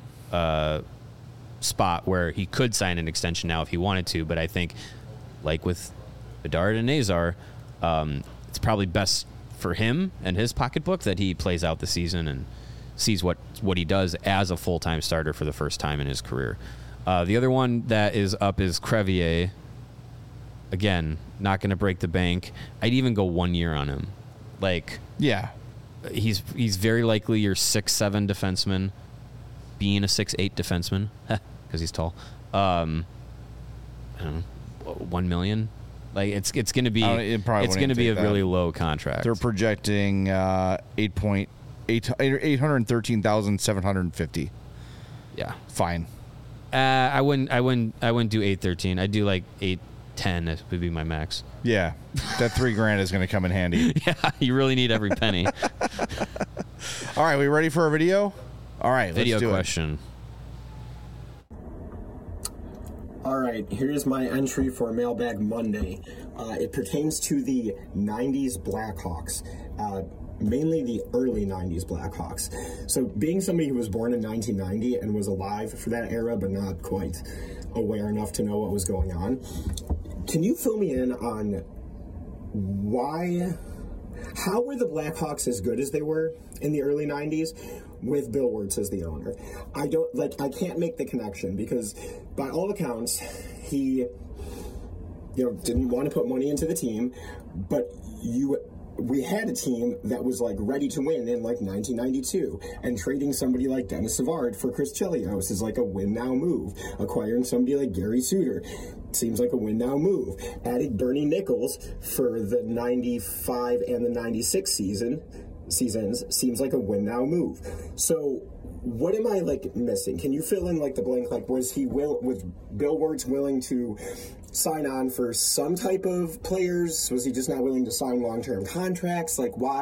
spot where he could sign an extension now if he wanted to. But I think, like with Bedard and Nazar, it's probably best for him and his pocketbook that he plays out the season and sees what he does as a full-time starter for the first time in his career. The other one that is up is Crevier. Again, not going to break the bank. I'd even go 1 year on him. He's very likely your 6'7" defenseman, being a 6'8" defenseman because he's tall. I don't know, $1 million. Like it's going to be a really low contract. They're projecting $813,750. Yeah, fine. I wouldn't do 813. I'd do like 810. It would be my max. Yeah, that $3,000 is going to come in handy. Yeah, you really need every penny. All right, we ready for a video? All right, video let's do question. All right, here's my entry for Mailbag Monday. It pertains to the 90s Blackhawks, mainly the early 90s Blackhawks. So being somebody who was born in 1990 and was alive for that era but not quite aware enough to know what was going on, can you fill me in on how were the Blackhawks as good as they were in the early 90s with Bill Wirtz as the owner? I can't make the connection because by all accounts, he, didn't want to put money into the team, but we had a team that was ready to win in 1992, and trading somebody like Dennis Savard for Chris Chelios is a win now move. Acquiring somebody like Gary Suter seems like a win now move. Adding Bernie Nichols for the 95 and the 96 seasons seems like a win now move. So what am I missing? Can you fill in the blank? Was Bill Wirtz willing to sign on for some type of players? Was he just not willing to sign long-term contracts?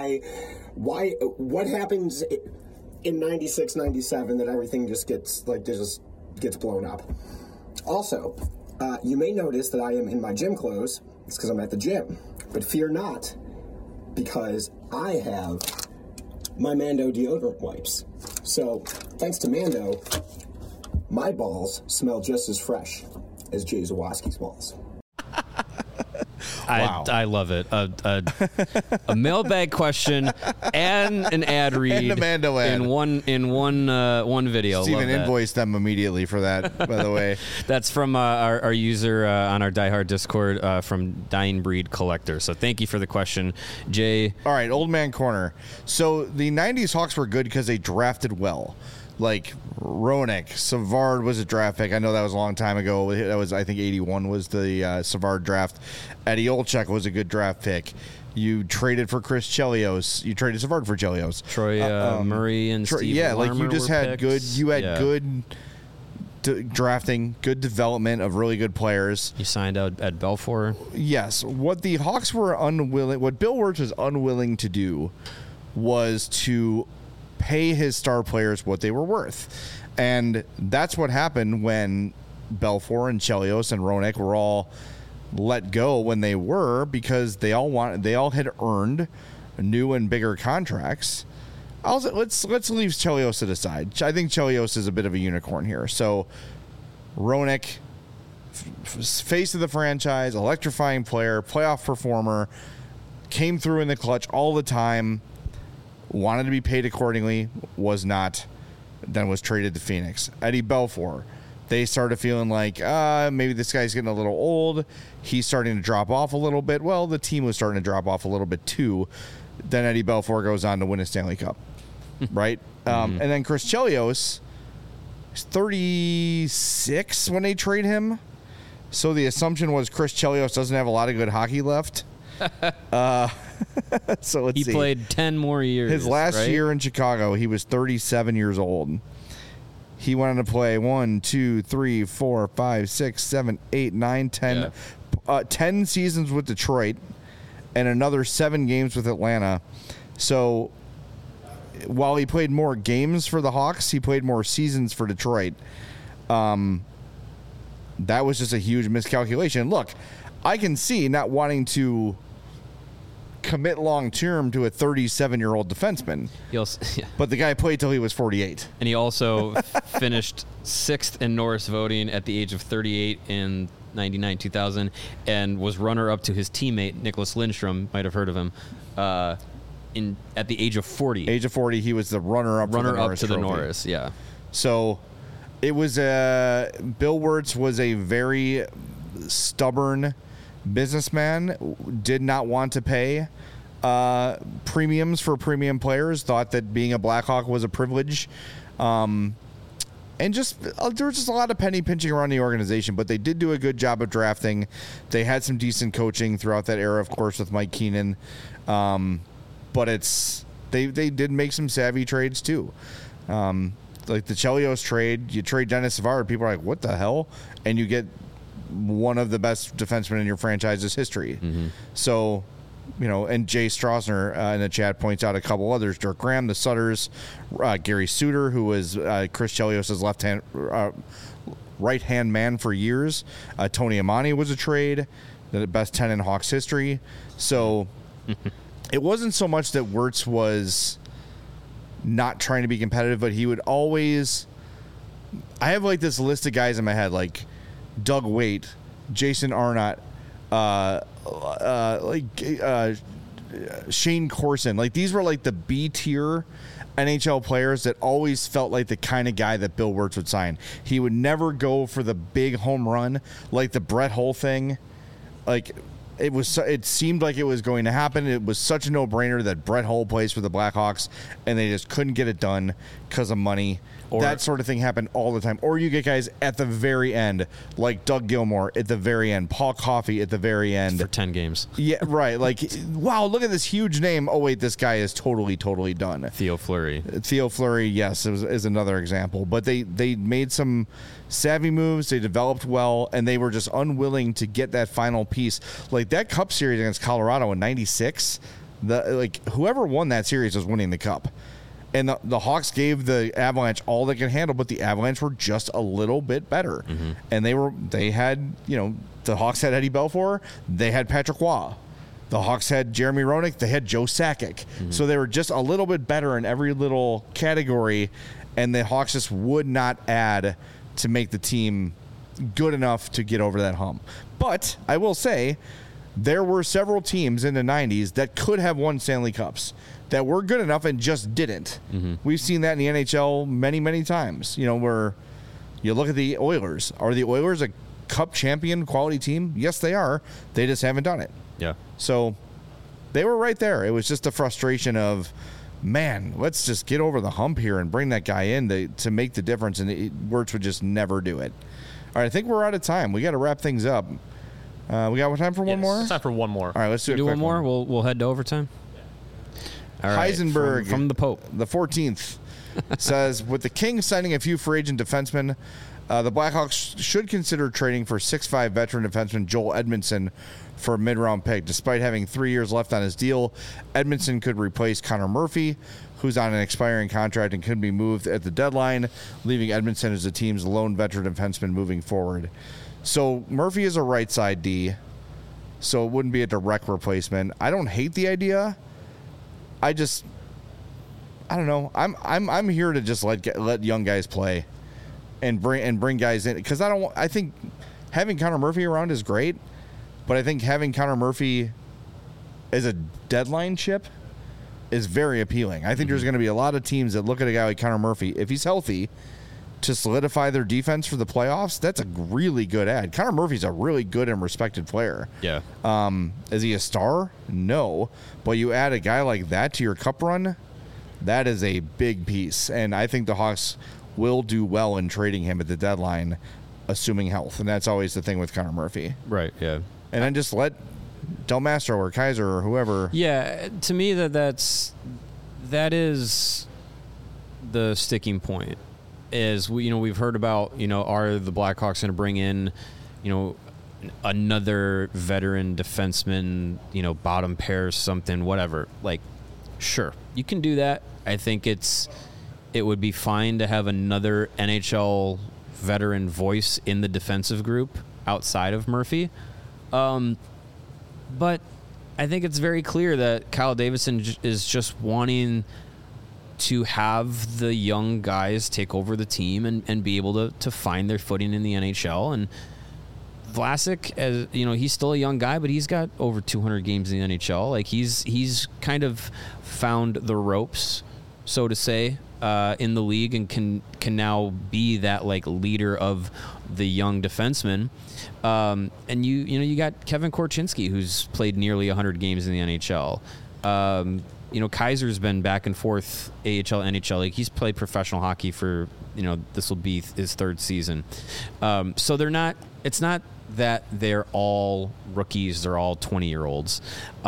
What happens in 96, 97 that everything just gets blown up? Also, you may notice that I am in my gym clothes. It's because I'm at the gym. But fear not, because I have my Mando deodorant wipes. So, thanks to Mando, my balls smell just as fresh as Jay Zawaski's balls. Wow. I love it. A mailbag question and an ad read and a Mando ad. in one video. Steven invoiced them immediately for that, by the way. That's from our user on our Die Hard Discord from Dying Breed Collector. So thank you for the question, Jay. All right, Old Man Corner. So the 90s Hawks were good because they drafted well. Roenick, Savard was a draft pick. I know that was a long time ago. That was, I think, 81 was the Savard draft. Eddie Olczyk was a good draft pick. You traded for Chris Chelios. You traded Savard for Chelios. Troy Murray and Steve Larmer you just had picks. good drafting, good development of really good players. You signed out Ed Belfour. Yes. What the Hawks were what Bill Wirtz was unwilling to do was to pay his star players what they were worth. And that's what happened when Belfour and Chelios and Roenick were all let go when they were, because they all had earned new and bigger contracts. Let's leave Chelios to the side. I think Chelios is a bit of a unicorn here. So Roenick, face of the franchise, electrifying player, playoff performer, came through in the clutch all the time, wanted to be paid accordingly, was not, then was traded to Phoenix. Eddie Belfour, they started feeling maybe this guy's getting a little old. He's starting to drop off a little bit. Well, the team was starting to drop off a little bit too. Then Eddie Belfour goes on to win a Stanley Cup, right? And then Chris Chelios is 36 when they trade him. So the assumption was Chris Chelios doesn't have a lot of good hockey left. So let's see. He played 10 more years. His last year in Chicago, he was 37 years old. He went on to play 1, 2, 3, 4, 5, 6, 7, 8, 9, 10, 10 seasons with Detroit and another 7 games with Atlanta. So while he played more games for the Hawks, he played more seasons for Detroit. That was just a huge miscalculation. Look, I can see not wanting to commit long term to a 37-year-old defenseman. But the guy played till he was 48. And he also finished 6th in Norris voting at the age of 38 in 99-2000 and was runner-up to his teammate, Nicholas Lindstrom, might have heard of him, at the age of 40. Age of 40, he was the runner-up to the Norris, yeah. So it was Bill Wirtz was a very stubborn businessman, did not want to pay premiums for premium players, thought that being a Blackhawk was a privilege. And just there was just a lot of penny pinching around the organization, but they did do a good job of drafting. They had some decent coaching throughout that era, of course, with Mike Keenan. But they did make some savvy trades too. Like the Chelios trade, you trade Dennis Savard, people are like, what the hell? And you get one of the best defensemen in your franchise's history. Mm-hmm. So, and Jay Strasner in the chat points out a couple others: Dirk Graham, the Sutters, Gary Suter, who was Chris Chelios' right-hand man for years. Tony Amani was a trade, the best 10 in Hawks history. So it wasn't so much that Wirtz was not trying to be competitive, but he would always. I have like this list of guys in my head, like Doug Waite, Jason Arnott, Shane Corson. Like these were like the B tier NHL players that always felt like the kind of guy that Bill Wirtz would sign. He would never go for the big home run like the Brett Hull thing. Like it seemed like it was going to happen. It was such a no-brainer that Brett Hull plays for the Blackhawks, and they just couldn't get it done because of money. That sort of thing happened all the time. Or you get guys at the very end, like Doug Gilmour at the very end, Paul Coffey at the very end. For 10 games. Yeah, right. Like, wow, look at this huge name. Oh, wait, this guy is totally done. Theo Fleury, yes, is another example. But they made some savvy moves. They developed well, and they were just unwilling to get that final piece. Like that Cup series against Colorado in '96, whoever won that series was winning the Cup. And the Hawks gave the Avalanche all they could handle, but the Avalanche were just a little bit better. Mm-hmm. And they had, the Hawks had Eddie Belfour, they had Patrick Waugh. The Hawks had Jeremy Roenick, they had Joe Sakic. Mm-hmm. So they were just a little bit better in every little category, and the Hawks just would not add to make the team good enough to get over that hump. But I will say, there were several teams in the 90s that could have won Stanley Cups that were good enough and just didn't. Mm-hmm. We've seen that in the NHL many, many times. Where you look at the Oilers. Are the Oilers a Cup champion quality team? Yes, they are. They just haven't done it. Yeah. So they were right there. It was just the frustration of, man, let's just get over the hump here and bring that guy in to make the difference. And Wirtz would just never do it. All right, I think we're out of time. We got to wrap things up. We got time for one more? It's time for one more. All right, let's do one more. We'll head to overtime. All right, Heisenberg from the Pope, the 14th, says, with the Kings signing a few free agent defensemen, the Blackhawks should consider trading for 6'5" veteran defenseman Joel Edmondson for a mid-round pick. Despite having 3 years left on his deal, Edmondson could replace Connor Murphy, who's on an expiring contract and could be moved at the deadline, leaving Edmondson as the team's lone veteran defenseman moving forward. So Murphy is a right side D, so it wouldn't be a direct replacement. I don't hate the idea. I don't know. I'm here to just let young guys play, and bring guys in, because I think having Connor Murphy around is great, but I think having Connor Murphy as a deadline chip is very appealing. I think there's going to be a lot of teams that look at a guy like Connor Murphy, if he's healthy, to solidify their defense for the playoffs. That's a really good ad. Connor Murphy's a really good and respected player. Yeah. Is he a star? No. But you add a guy like that to your cup run, that is a big piece. And I think the Hawks will do well in trading him at the deadline, assuming health. And that's always the thing with Connor Murphy. Right, yeah. And then just let Del Mastro or Kaiser or whoever. Yeah, to me that is the sticking point. Is we've heard about, are the Blackhawks going to bring in, another veteran defenseman, bottom pair something, whatever. Like, Sure, you can do that. I think it would be fine to have another NHL veteran voice in the defensive group outside of Murphy. But I think it's very clear that Kyle Davidson is just wanting to have the young guys take over the team and be able to find their footing in the NHL. And Vlasic, as you know, he's still a young guy, but he's got over 200 games in the NHL. Like he's kind of found the ropes, so to say, in the league, and can now be that like leader of the young defensemen. And you got Kevin Korchinski, who's played nearly 100 games in the NHL. Kaiser's been back and forth AHL, NHL. Like he's played professional hockey for, this will be his third season. So it's not that they're all rookies. They're all 20-year-olds.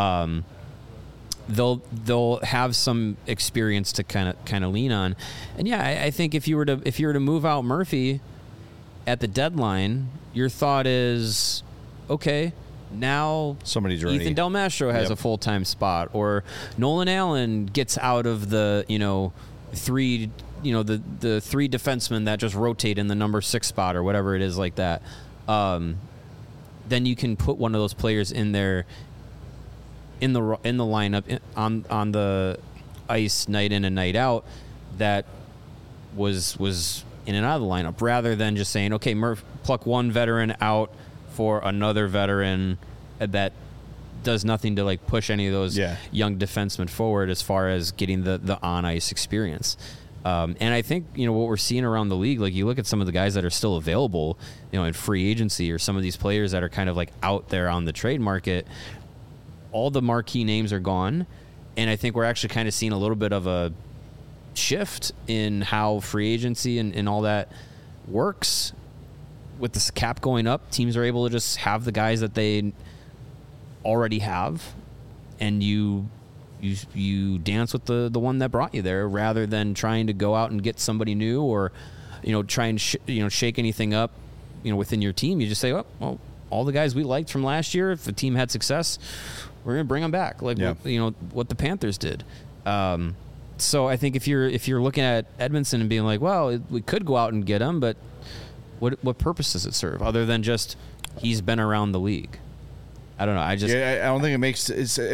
They'll have some experience to kind of lean on. And yeah, I think if you were to move out Murphy at the deadline, your thought is, okay, now somebody's ready. Ethan Del Mastro has a full-time spot, or Nolan Allen gets out of the three defensemen that just rotate in the number 6 spot or whatever it is like that. Then you can put one of those players in there in the lineup on the ice night in and night out that was in and out of the lineup, rather than just saying, okay, pluck one veteran out for another veteran that does nothing to like push any of those young defensemen forward as far as getting the on ice experience. And I think what we're seeing around the league, like you look at some of the guys that are still available, in free agency, or some of these players that are kind of like out there on the trade market. All the marquee names are gone, and I think we're actually kind of seeing a little bit of a shift in how free agency and all that works. With the cap going up, teams are able to just have the guys that they already have, and you dance with the one that brought you there, rather than trying to go out and get somebody new, or try and shake anything up within your team. You just say, well, all the guys we liked from last year, if the team had success, we're going to bring them back, like what the Panthers did. So I think if you're looking at Edmondson and being like, well, we could go out and get him, but what purpose does it serve other than just he's been around the league? I don't know. I don't think it makes.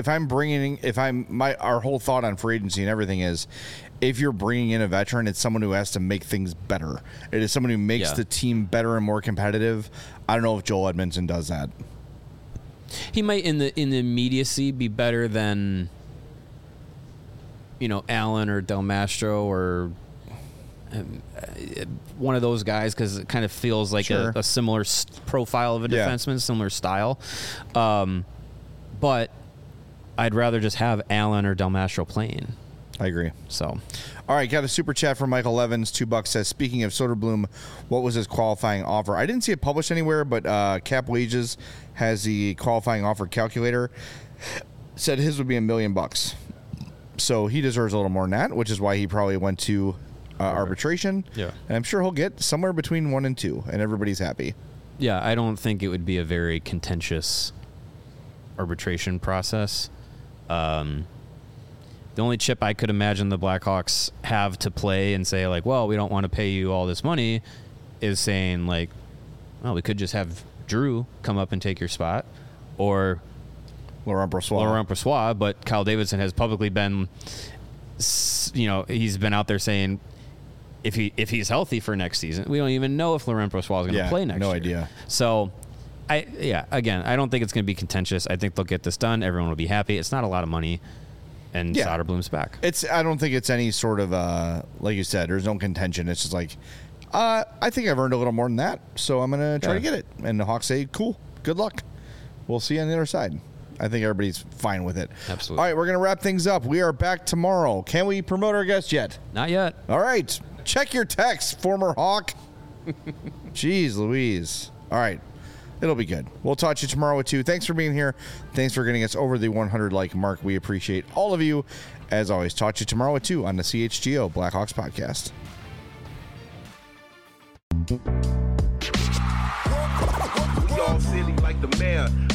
Our whole thought on free agency and everything is, if you're bringing in a veteran, it's someone who has to make things better. It is someone who makes the team better and more competitive. I don't know if Joel Edmondson does that. He might in the immediacy be better than Allen or Del Mastro or one of those guys, because it kind of feels like a similar profile of a defenseman, similar style. But I'd rather just have Allen or Del Mastro playing. I agree. So, all right, got a super chat from Michael Evans. $2 says, speaking of Soderblom, what was his qualifying offer? I didn't see it published anywhere, but Cap Wages has the qualifying offer calculator. Said his would be $1 million. So he deserves a little more than that, which is why he probably went to arbitration. Yeah. And I'm sure he'll get somewhere between 1 and 2, and everybody's happy. Yeah, I don't think it would be a very contentious arbitration process. The only chip I could imagine the Blackhawks have to play and say, like, well, we don't want to pay you all this money, is saying, like, well, we could just have Drew come up and take your spot, or Laurent Brossoit. But Kyle Davidson has publicly been, he's been out there saying if he's healthy for next season, we don't even know if Laurent Brossoit is going to play next year. No idea. So, I don't think it's going to be contentious. I think they'll get this done. Everyone will be happy. It's not a lot of money. And Soderblom's back. I don't think it's any sort of, like you said, there's no contention. It's just like, I think I've earned a little more than that, so I'm going to try to get it. And the Hawks say, cool, good luck. We'll see you on the other side. I think everybody's fine with it. Absolutely. All right, we're going to wrap things up. We are back tomorrow. Can we promote our guest yet? Not yet. All right. Check your text, former Hawk. Jeez Louise. All right. It'll be good. We'll talk to you tomorrow at 2. Thanks for being here. Thanks for getting us over the 100 like mark. We appreciate all of you. As always, talk to you tomorrow at 2 on the CHGO Blackhawks podcast. We all silly like the mayor.